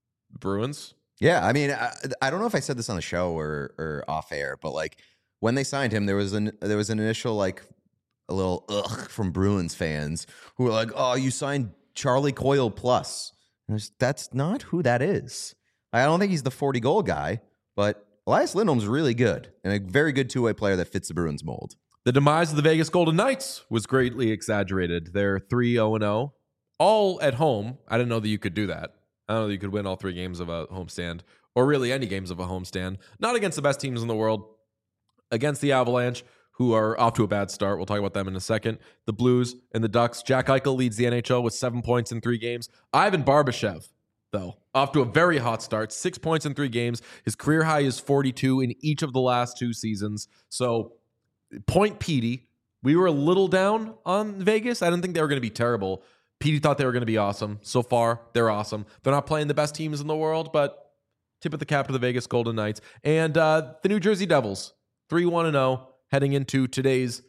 Bruins. Yeah, I mean, I, I don't know if I said this on the show or or off air, but like when they signed him, there was an there was an initial like a little ugh from Bruins fans who were like, "Oh, you signed Charlie Coyle plus." And I was, that's not who that is. I don't think he's the forty goal guy, but Elias Lindholm's really good and a very good two way player that fits the Bruins mold. The demise of the Vegas Golden Knights was greatly exaggerated. They're three oh and oh, all at home. I didn't know that you could do that. I don't know that you could win all three games of a homestand, or really any games of a homestand. Not against the best teams in the world. Against the Avalanche, who are off to a bad start. We'll talk about them in a second. The Blues and the Ducks. Jack Eichel leads the N H L with seven points in three games. Ivan Barbashev, though, off to a very hot start. Six points in three games. His career high is forty-two in each of the last two seasons. So, point Petey. We were a little down on Vegas. I didn't think they were going to be terrible. Petey thought they were going to be awesome. So far, they're awesome. They're not playing the best teams in the world, but tip of the cap to the Vegas Golden Knights. And uh, the New Jersey Devils, three one and oh, heading into today's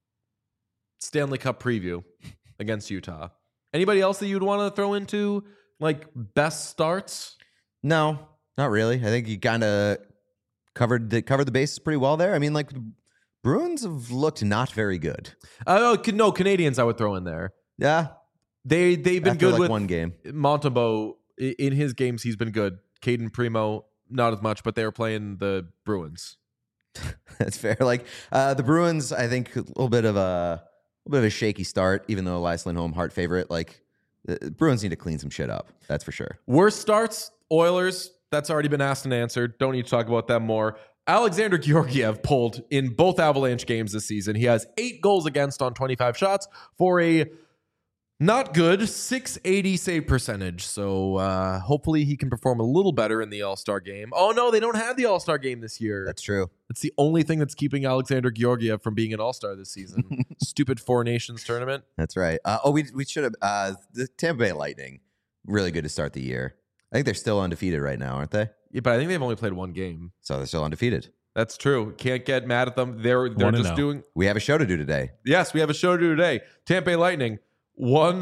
Stanley Cup preview against Utah. Anybody else that you'd want to throw into, like, best starts? No, not really. I think you kind of covered the, covered the bases pretty well there. I mean, like, the Bruins have looked not very good. Uh, no, Canadians I would throw in there. Yeah. They, they've been After good like with one game. Montembeault. In his games, he's been good. Caden Primo, not as much, but they were playing the Bruins. That's fair. Like uh, the Bruins, I think a little bit of a, a little bit of a shaky start, even though Elias Lindholm, Hart favorite. Like the Bruins need to clean some shit up. That's for sure. Worst starts, Oilers. That's already been asked and answered. Don't need to talk about that more. Alexander Georgiev pulled in both Avalanche games this season. He has eight goals against on twenty-five shots for a not good six eighty save percentage. So uh, hopefully he can perform a little better in the All-Star game. Oh, no, they don't have the All-Star game this year. That's true. It's the only thing that's keeping Alexander Georgiev from being an All-Star this season. Stupid Four Nations tournament. That's right. Uh, oh, we we should have. Uh, the Tampa Bay Lightning, really good to start the year. I think they're still undefeated right now, aren't they? Yeah, but I think they've only played one game. So they're still undefeated. That's true. Can't get mad at them. They're they're just oh. doing. We have a show to do today. Yes, we have a show to do today. Tampa Bay Lightning one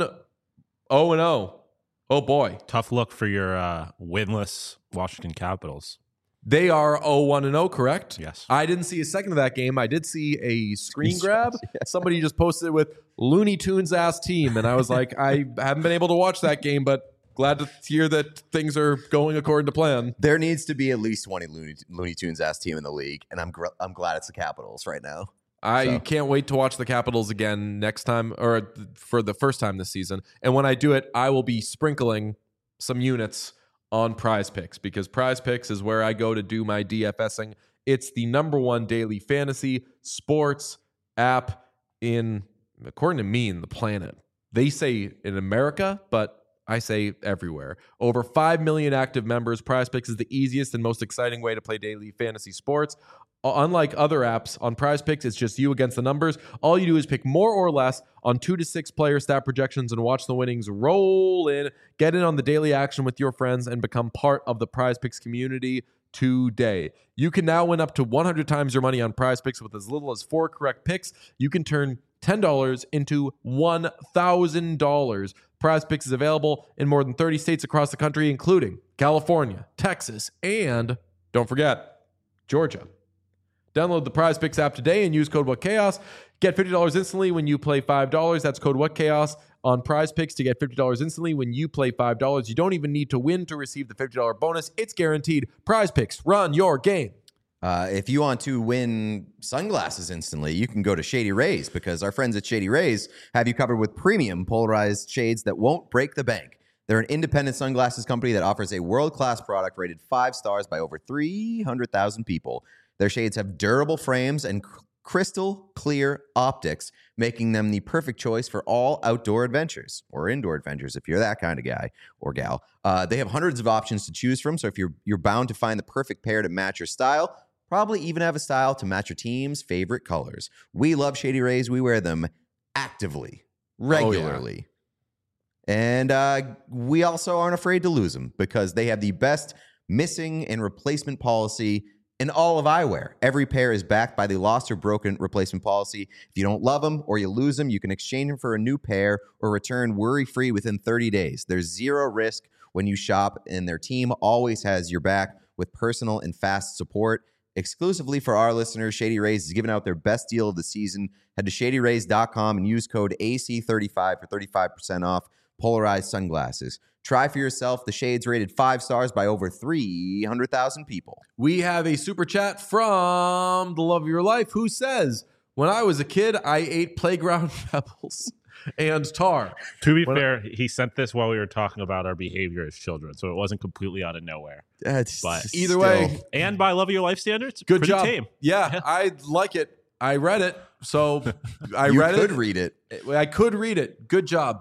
oh and oh. Oh boy, Tough look for your uh, winless Washington Capitals. they are oh one and oh. Correct? Yes. I didn't see a second of that game. I did see a screen Screen grab. Somebody just posted it with Looney Tunes ass team, and I was like, I haven't been able to watch that game, but glad to hear that things are going according to plan. There needs to be at least one Looney, Looney Tunes ass team in the league, and I'm gr- I'm glad it's the Capitals right now. I So. can't wait to watch the Capitals again next time, or for the first time this season. And when I do it, I will be sprinkling some units on Prize Picks, because Prize Picks is where I go to do my DFSing. It's the number one daily fantasy sports app in, according to me, in the planet. They say in America, but I say everywhere. Over five million active members. Prize Picks is the easiest and most exciting way to play daily fantasy sports. Unlike other apps, on Prize Picks, it's just you against the numbers. All you do is pick more or less on two to six player stat projections and watch the winnings roll in. Get in on the daily action with your friends and become part of the Prize Picks community today. You can now win up to one hundred times your money on Prize Picks with as little as four correct picks. You can turn ten dollars into one thousand dollars. Prize Picks is available in more than thirty states across the country, including California, Texas, and, don't forget, Georgia. Download the Prize Picks app today and use code WhatChaos. Get fifty dollars instantly when you play five dollars. That's code WhatChaos on Prize Picks to get fifty dollars instantly when you play five dollars. You don't even need to win to receive the fifty dollars bonus. It's guaranteed. Prize Picks, run your game. Uh, if you want to win sunglasses instantly, you can go to Shady Rays, because our friends at Shady Rays have you covered with premium polarized shades that won't break the bank. They're an independent sunglasses company that offers a world-class product rated five stars by over three hundred thousand people. Their shades have durable frames and cr- crystal clear optics, making them the perfect choice for all outdoor adventures or indoor adventures if you're that kind of guy or gal. Uh, they have hundreds of options to choose from, so if you're you're bound to find the perfect pair to match your style, probably even have a style to match your team's favorite colors. We love Shady Rays. We wear them actively, regularly. Oh, yeah. And uh, we also aren't afraid to lose them, because they have the best missing and replacement policy in all of eyewear. Every pair is backed by the lost or broken replacement policy. If you don't love them or you lose them, you can exchange them for a new pair or return worry-free within thirty days. There's zero risk when you shop, and their team always has your back with personal and fast support. Exclusively for our listeners, Shady Rays is giving out their best deal of the season. Head to shady rays dot com and use code A C thirty-five for thirty-five percent off polarized sunglasses. Try for yourself the shades rated five stars by over three hundred thousand people. We have a super chat from the love of your life, who says, when I was a kid, I ate playground pebbles and tar. To be When fair, he sent this while we were talking about our behavior as children, so it wasn't completely out of nowhere. That's But Either still- way, And by Love of Your Life standards, good pretty job. tame. Yeah, I like it. I read it, so I you read could it. read it. I could read it. Good job.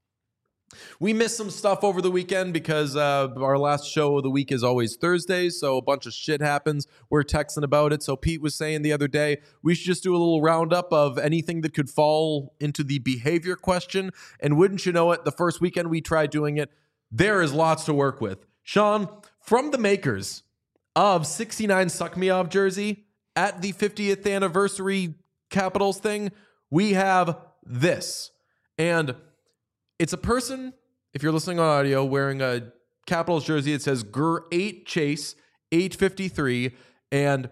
We missed some stuff over the weekend because uh, our last show of the week is always Thursdays, so a bunch of shit happens. We're texting about it. So Pete was saying the other day, we should just do a little roundup of anything that could fall into the behavior question. And wouldn't you know it, the first weekend we tried doing it, there is lots to work with. Sean, from the makers of sixty-nine Suck Me Off jersey at the fiftieth anniversary Capitals thing, we have this. And it's a person, if you're listening on audio, wearing a Capitals jersey. It says G R eight Chase eight fifty-three. And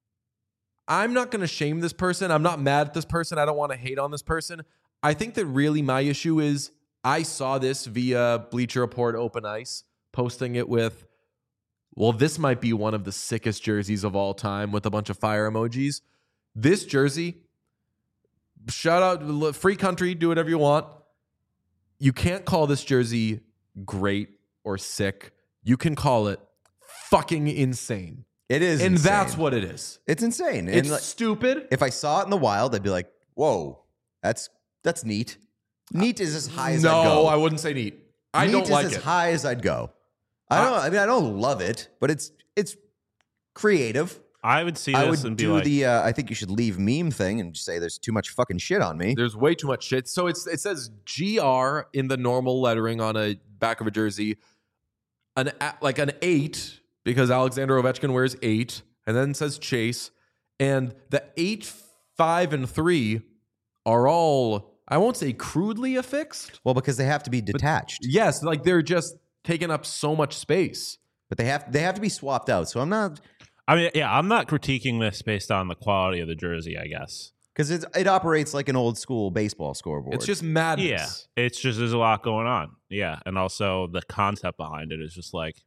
I'm not going to shame this person. I'm not mad at this person. I don't want to hate on this person. I think that really my issue is I saw this via Bleacher Report Open Ice, posting it with well, this might be one of the sickest jerseys of all time with a bunch of fire emojis. This jersey, shout out, free country, do whatever you want. You can't call this jersey great or sick. You can call it fucking insane. It is And insane. that's what it is. It's insane. It's and like, stupid. if I saw it in the wild, I'd be like, whoa, that's that's neat. Neat is as high as no, I'd go. I wouldn't say neat. I neat don't is like as it. high as I'd go. I don't. I mean, I don't love it, but it's it's creative. I would see I this would and be do like, the. Uh, I think you should leave meme thing and just say there's too much fucking shit on me. There's way too much shit. So it's it says G R in the normal lettering on a back of a jersey, an a- like an eight because Alexander Ovechkin wears eight, and then it says Chase, and the eight, five, and three are all, I won't say crudely affixed. Well, because they have to be detached, Yes, like they're just taking up so much space. but they have they have to be swapped out. So I'm not I mean, yeah, I'm not critiquing this based on the quality of the jersey, I guess. because it it operates like an old school baseball scoreboard. It's just madness. Yeah, it's just there's a lot going on. Yeah, and also the concept behind it is just like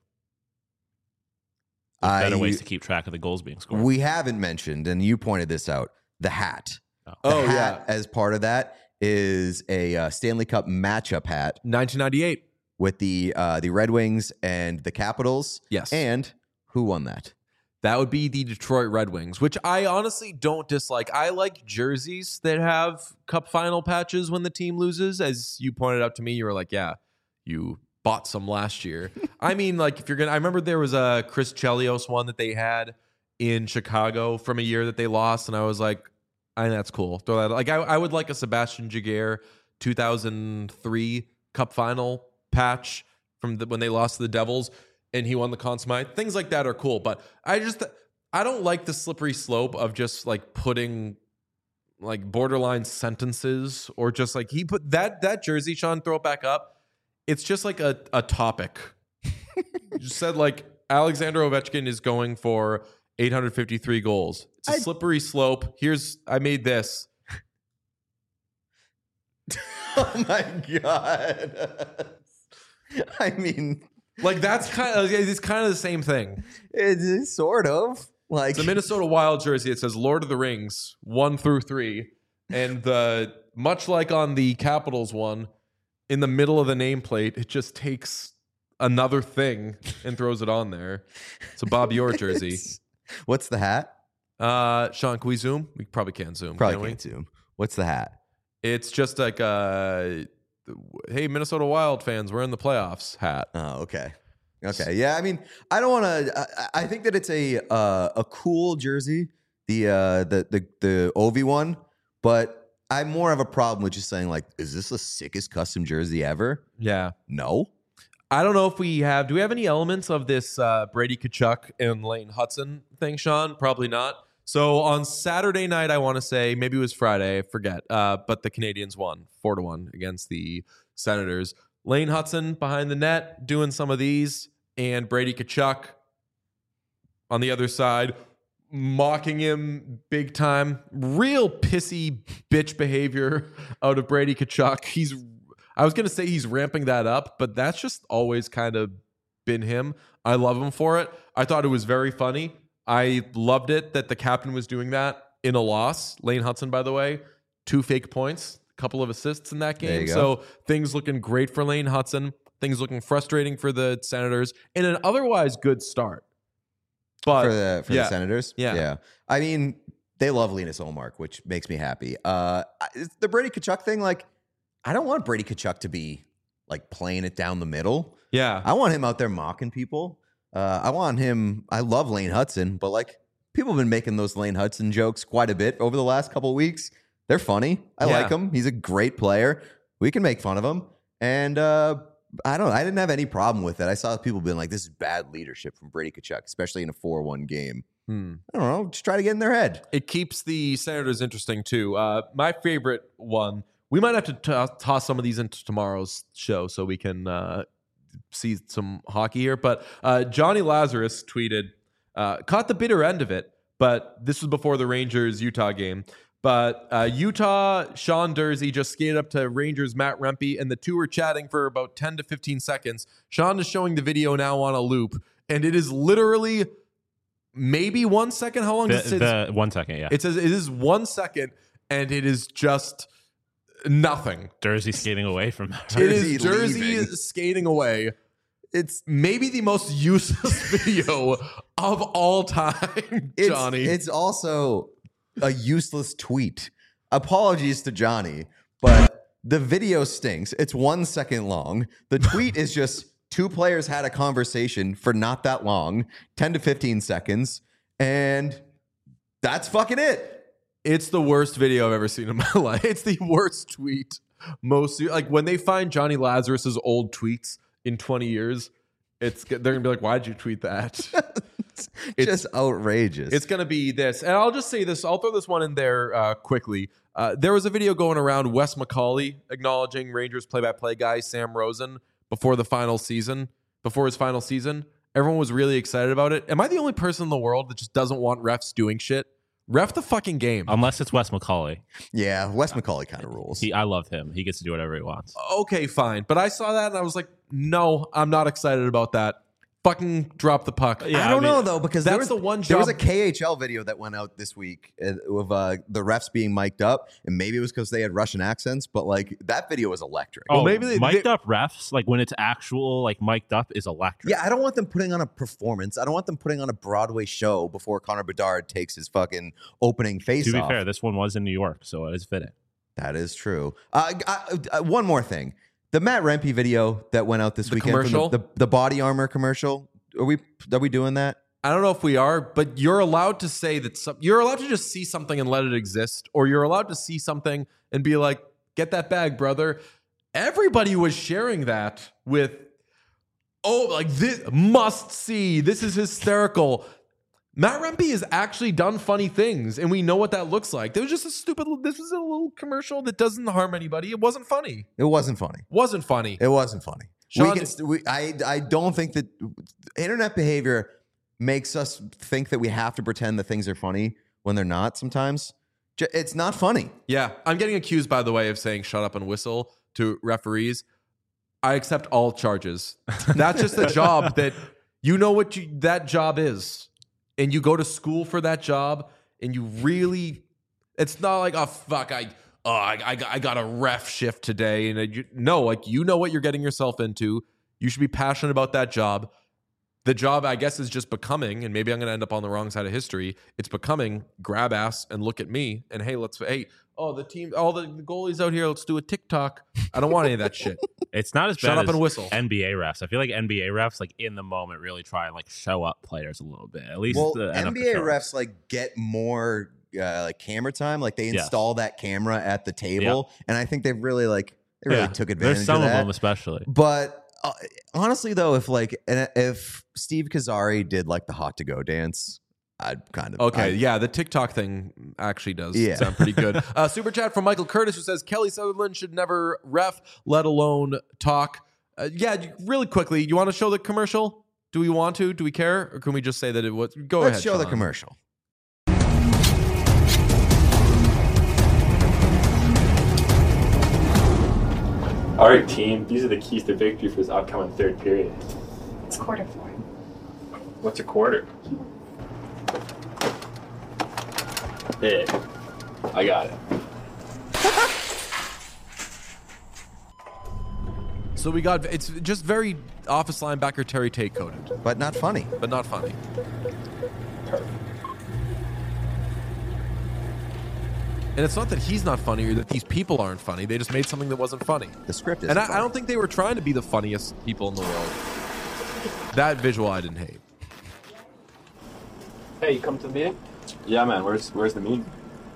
there's better I- ways to keep track of the goals being scored. We haven't mentioned, and you pointed this out, the hat. Oh. The Oh, hat, yeah. as part of that, is a uh, Stanley Cup matchup hat nineteen ninety-eight. with the uh, the Red Wings and the Capitals. Yes. And who won that? That would be the Detroit Red Wings, which I honestly don't dislike. I like jerseys that have cup final patches when the team loses. As you pointed out to me, you were like, yeah, you bought some last year. I mean, like, if you're going to, I remember there was a Chris Chelios one that they had in Chicago from a year that they lost. And I was like, I think that's cool. Throw that, like, I, I would like a Sebastian Jaguar two thousand three cup final patch from the, when they lost to the Devils and he won the Conn Smythe. Things like that are cool, but I just I don't like the slippery slope of just like putting like borderline sentences or just like he put that that jersey, Sean, throw it back up. It's just like a, a topic. You just said like Alexander Ovechkin is going for eight hundred fifty-three goals. It's a I- slippery slope. Here's I made this. Oh my god! I mean, Like that's kind of it's kind of the same thing. it's sort of like It's a Minnesota Wild jersey. It says Lord of the Rings one through three, and the much like on the Capitals one, in the middle of the nameplate, it just takes another thing and throws it on there. It's a Bob Orr jersey. What's the hat? Uh, Sean, can we zoom? We probably can't zoom. Probably can we? can't zoom. What's the hat? It's just like a hey Minnesota Wild fans, we're in the playoffs hat. Oh, okay. Okay. Yeah. I mean, I don't want to. I, I think that it's a uh, a cool jersey, the uh, the the the Ovi one, but I more have a problem with just saying like, is this the sickest custom jersey ever? Yeah. No. I don't know if we have. Do we have any elements of this uh, Brady Tkachuk and Lane Hudson thing, Sean? Probably not. So on Saturday night, I want to say maybe it was Friday, I forget. Uh, but the Canadians won four to one against the Senators. Lane Hudson behind the net doing some of these, and Brady Tkachuk on the other side mocking him big time. Real pissy bitch behavior out of Brady Tkachuk. He's I was going to say he's ramping that up, but that's just always kind of been him. I love him for it. I thought it was very funny. I loved it that the captain was doing that in a loss. Lane Hudson, by the way, two fake points, a couple of assists in that There game. you So go. things looking great for Lane Hudson. Things looking frustrating for the Senators in an otherwise good start. But for the for yeah. the Senators. Yeah. Yeah. I mean, they love Linus Olmark, which makes me happy. Uh, I- it's the Brady Tkachuk thing, like, I don't want Brady Tkachuk to be like playing it down the middle. yeah, I want him out there mocking people. Uh, I want him. I love Lane Hudson, but like people have been making those Lane Hudson jokes quite a bit over the last couple of weeks. They're funny. I Yeah. like him. He's a great player. We can make fun of him, and uh, I don't. I didn't have any problem with it. I saw people being like, "This is bad leadership from Brady Tkachuk, especially in a four one game." Hmm. I don't know. Just try to get in their head. It keeps the Senators interesting too. Uh, my favorite one. We might have to t- toss some of these into tomorrow's show so we can uh, see some hockey here. But uh, Johnny Lazarus tweeted, uh, caught the bitter end of it, but this was before the Rangers Utah game. But uh, Utah, Sean Dursey just skated up to Rangers Matt Rempe, and the two were chatting for about ten to fifteen seconds. Sean is showing the video now on a loop, and it is literally maybe one second. How long The, does it the one second, yeah. It says it is one second, and it is just nothing. Jersey skating away from It Jersey is Jersey leaving. skating away. It's maybe the most useless video of all time, It's, Johnny. It's also a useless tweet. Apologies to Johnny, but the video stinks. It's one second long. The tweet is just two players had a conversation for not that long, ten to fifteen seconds, and that's fucking it. It's the worst video I've ever seen in my life. It's the worst tweet. Most like when they find Johnny Lazarus's old tweets in twenty years, it's they're gonna be like, "Why'd you tweet that?" It's just outrageous. It's gonna be this, and I'll just say this. I'll throw this one in there uh, quickly. Uh, there was a video going around Wes McCauley acknowledging Rangers play-by-play guy Sam Rosen before the final season, before his final season. Everyone was really excited about it. Am I the only person in the world that just doesn't want refs doing shit? Ref the fucking game. Unless it's Wes McCauley. yeah, Wes McCauley kind of rules. He, I love him. He gets to do whatever he wants. Okay, fine. But I saw that and I was like, no, I'm not excited about that. Fucking drop the puck. Yeah, I don't I mean, know though, because that's there was the one There was a job- K H L video that went out this week uh, of uh, the refs being mic'd up, and maybe it was because they had Russian accents, but like that video was electric. Oh, maybe they- mic'd they- up refs, like when it's actual, like mic'd up, is electric. Yeah, I don't want them putting on a performance. I don't want them putting on a Broadway show before Connor Bedard takes his fucking opening face To be off. fair, this one was in New York, so it is fitting. That is true. Uh, I, uh, one more thing. The Matt Rempe video that went out this The weekend, from commercial? the, the, the body armor commercial. Are we are we doing that? I don't know if we are, but you're allowed to say that some, you're allowed to just see something and let it exist, or you're allowed to see something and be like, get that bag, brother. Everybody was sharing that with, oh, like this must see. This is hysterical. Matt Rempe has actually done funny things, and we know what that looks like. There was just a stupid, this was a little commercial that doesn't harm anybody. It wasn't funny. It wasn't funny. Wasn't funny. It wasn't funny. Sean- we can, st- we, I I don't think that internet behavior makes us think that we have to pretend that things are funny when they're not. Sometimes J- it's not funny. Yeah, I'm getting accused, by the way, of saying shut up and whistle to referees. I accept all charges. That's just the job that you know what you, that job is. And you go to school for that job, and you really, it's not like, oh, fuck, I, oh, I, I, got, I got a ref shift today. And I, you, no, like, you know what you're getting yourself into. You should be passionate about that job. The job, I guess, is just becoming, and maybe I'm going to end up on the wrong side of history. It's becoming grab ass and look at me and hey, let's, hey, oh, the team, all the goalies out here, let's do a TikTok. I don't want any of that shit. It's not as Shut bad up as and whistle. N B A refs. I feel like N B A refs, like in the moment, really try and like show up players a little bit. At least Well, the N B A refs like get more uh, like camera time. Like they Yes. install that camera at the table, and I think they've really like they really Yeah. took advantage There's some of of that. them, especially. But uh, honestly, though, if like and if Steve Kazari did like the hot to go dance, I'd kind of Okay, I'd- yeah, the TikTok thing actually does Yeah. sound pretty good. Uh, super chat from Michael Curtis, who says Kelly Sutherland should never ref, let alone talk. Uh, yeah, you- really quickly, you want to show the commercial? Do we want to? Do we care, or can we just say that it was? Go Let's ahead. show the Sean. commercial. All right, team. These are the keys to victory for this upcoming third period. It's quarter four. What's a quarter? Hey, I got it. So we got it's just very office linebacker Terry Tate coded, But not funny. but not funny. Perfect. And it's not that he's not funny or that these people aren't funny. They just made something that wasn't funny. The script is. And I, I don't think they were trying to be the funniest people in the world. That visual I didn't hate. Hey, you come to the meeting? Yeah, man. Where's Where's the meeting?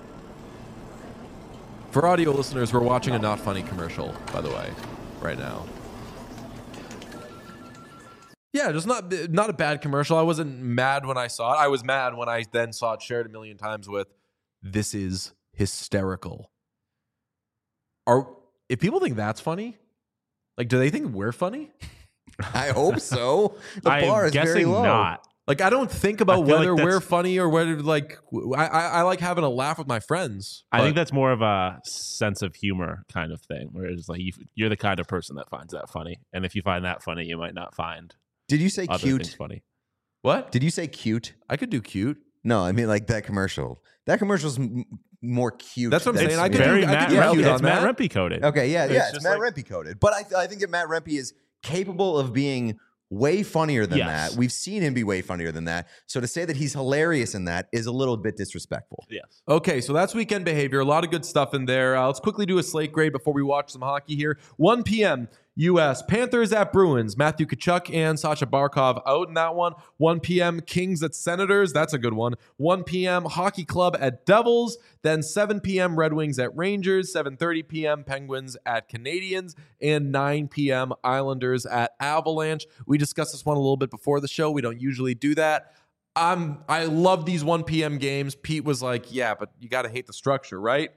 For audio listeners, we're watching a not funny commercial, by the way, right now. Yeah, just not not a bad commercial. I wasn't mad when I saw it. I was mad when I then saw it shared a million times with, "This is hysterical." Are if people think that's funny, like, do they think we're funny? I hope so. The I'm bar is guessing very low. not. Like, I don't think about I feel whether like we're that's- funny or whether, like, I, I, I like having a laugh with my friends. I think but- that's more of a sense of humor kind of thing, where it's like you, you're the kind of person that finds that funny, and if you find that funny, you might not find Did you say other cute? things funny. What? Did you say cute? I could do cute. No, I mean like that commercial. That commercial's m- more cute. That's what I'm than- saying. I could Very do, I Matt could do yeah, Rempe. cute okay, on It's Matt that. Rempe coded. Okay, yeah, It's yeah, it's just Matt like- Rempe coded. But I, th- I think that Matt Rempe is capable of being way funnier than Yes. that. We've seen him be way funnier than that. So to say that he's hilarious in that is a little bit disrespectful. Yes. Okay, so that's weekend behavior. A lot of good stuff in there. Uh, let's quickly do a slate grade before we watch some hockey here. one p.m. U S Panthers at Bruins. Matthew Tkachuk and Sasha Barkov out in that one. one p.m. Kings at Senators. That's a good one. one p.m. Hockey Club at Devils. Then seven p.m. Red Wings at Rangers. seven thirty p.m. Penguins at Canadians. And nine p.m. Islanders at Avalanche. We discussed this one a little bit before the show. We don't usually do that. I'm, I love these one p.m. games. Pete was like, yeah, but you got to hate the structure, right?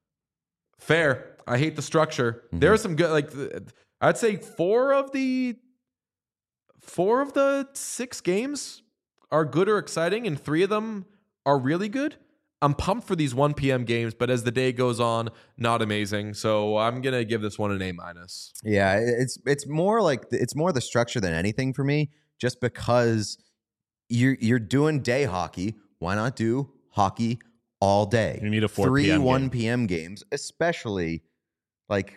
Fair. I hate the structure. Mhm. There are some good, like, th- I'd say four of the four of the six games are good or exciting, and three of them are really good. I'm pumped for these one p.m. games, but as the day goes on, not amazing. So I'm gonna give this one an A minus. Yeah, it's it's more like it's more the structure than anything for me. Just because you're you're doing day hockey, why not do hockey all day? You need a four three p.m. game. one p.m. games, especially like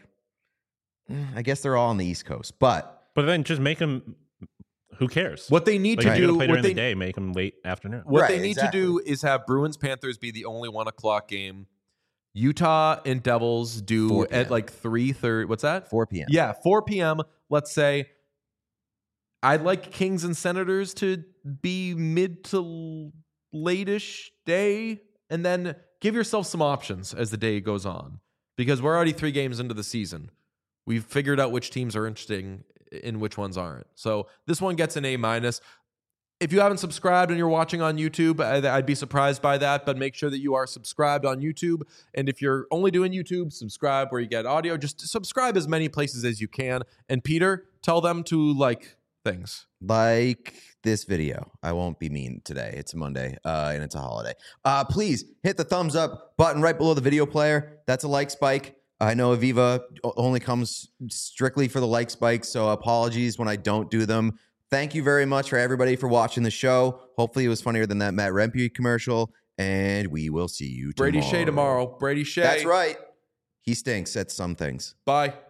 I guess they're all on the East Coast, but But then just make them. Who cares? What they need Like to if you're do, gonna play what during they, the day, make them late afternoon. what Right, they need exactly. to do is have Bruins Panthers be the only one o'clock game. Utah and Devils do four p.m. at like three thirty. What's that? four p.m. Yeah, four p.m. Let's say. I'd like Kings and Senators to be mid to late-ish day, and then give yourself some options as the day goes on, because we're already three games into the season. We've figured out which teams are interesting and which ones aren't. So this one gets an A minus. If you haven't subscribed and you're watching on YouTube, I- I'd be surprised by that, but make sure that you are subscribed on YouTube. And if you're only doing YouTube, subscribe where you get audio. Just subscribe as many places as you can. And Peter, tell them to like things. Like this video. I won't be mean today. It's a Monday uh, and it's a holiday. Uh, please hit the thumbs up button right below the video player. That's a like spike. I know Aviva o- only comes strictly for the like spikes, so apologies when I don't do them. Thank you very much for everybody for watching the show. Hopefully it was funnier than that Matt Rempe commercial, and we will see you tomorrow. Brady Shea tomorrow. Brady Shea. That's right. He stinks at some things. Bye.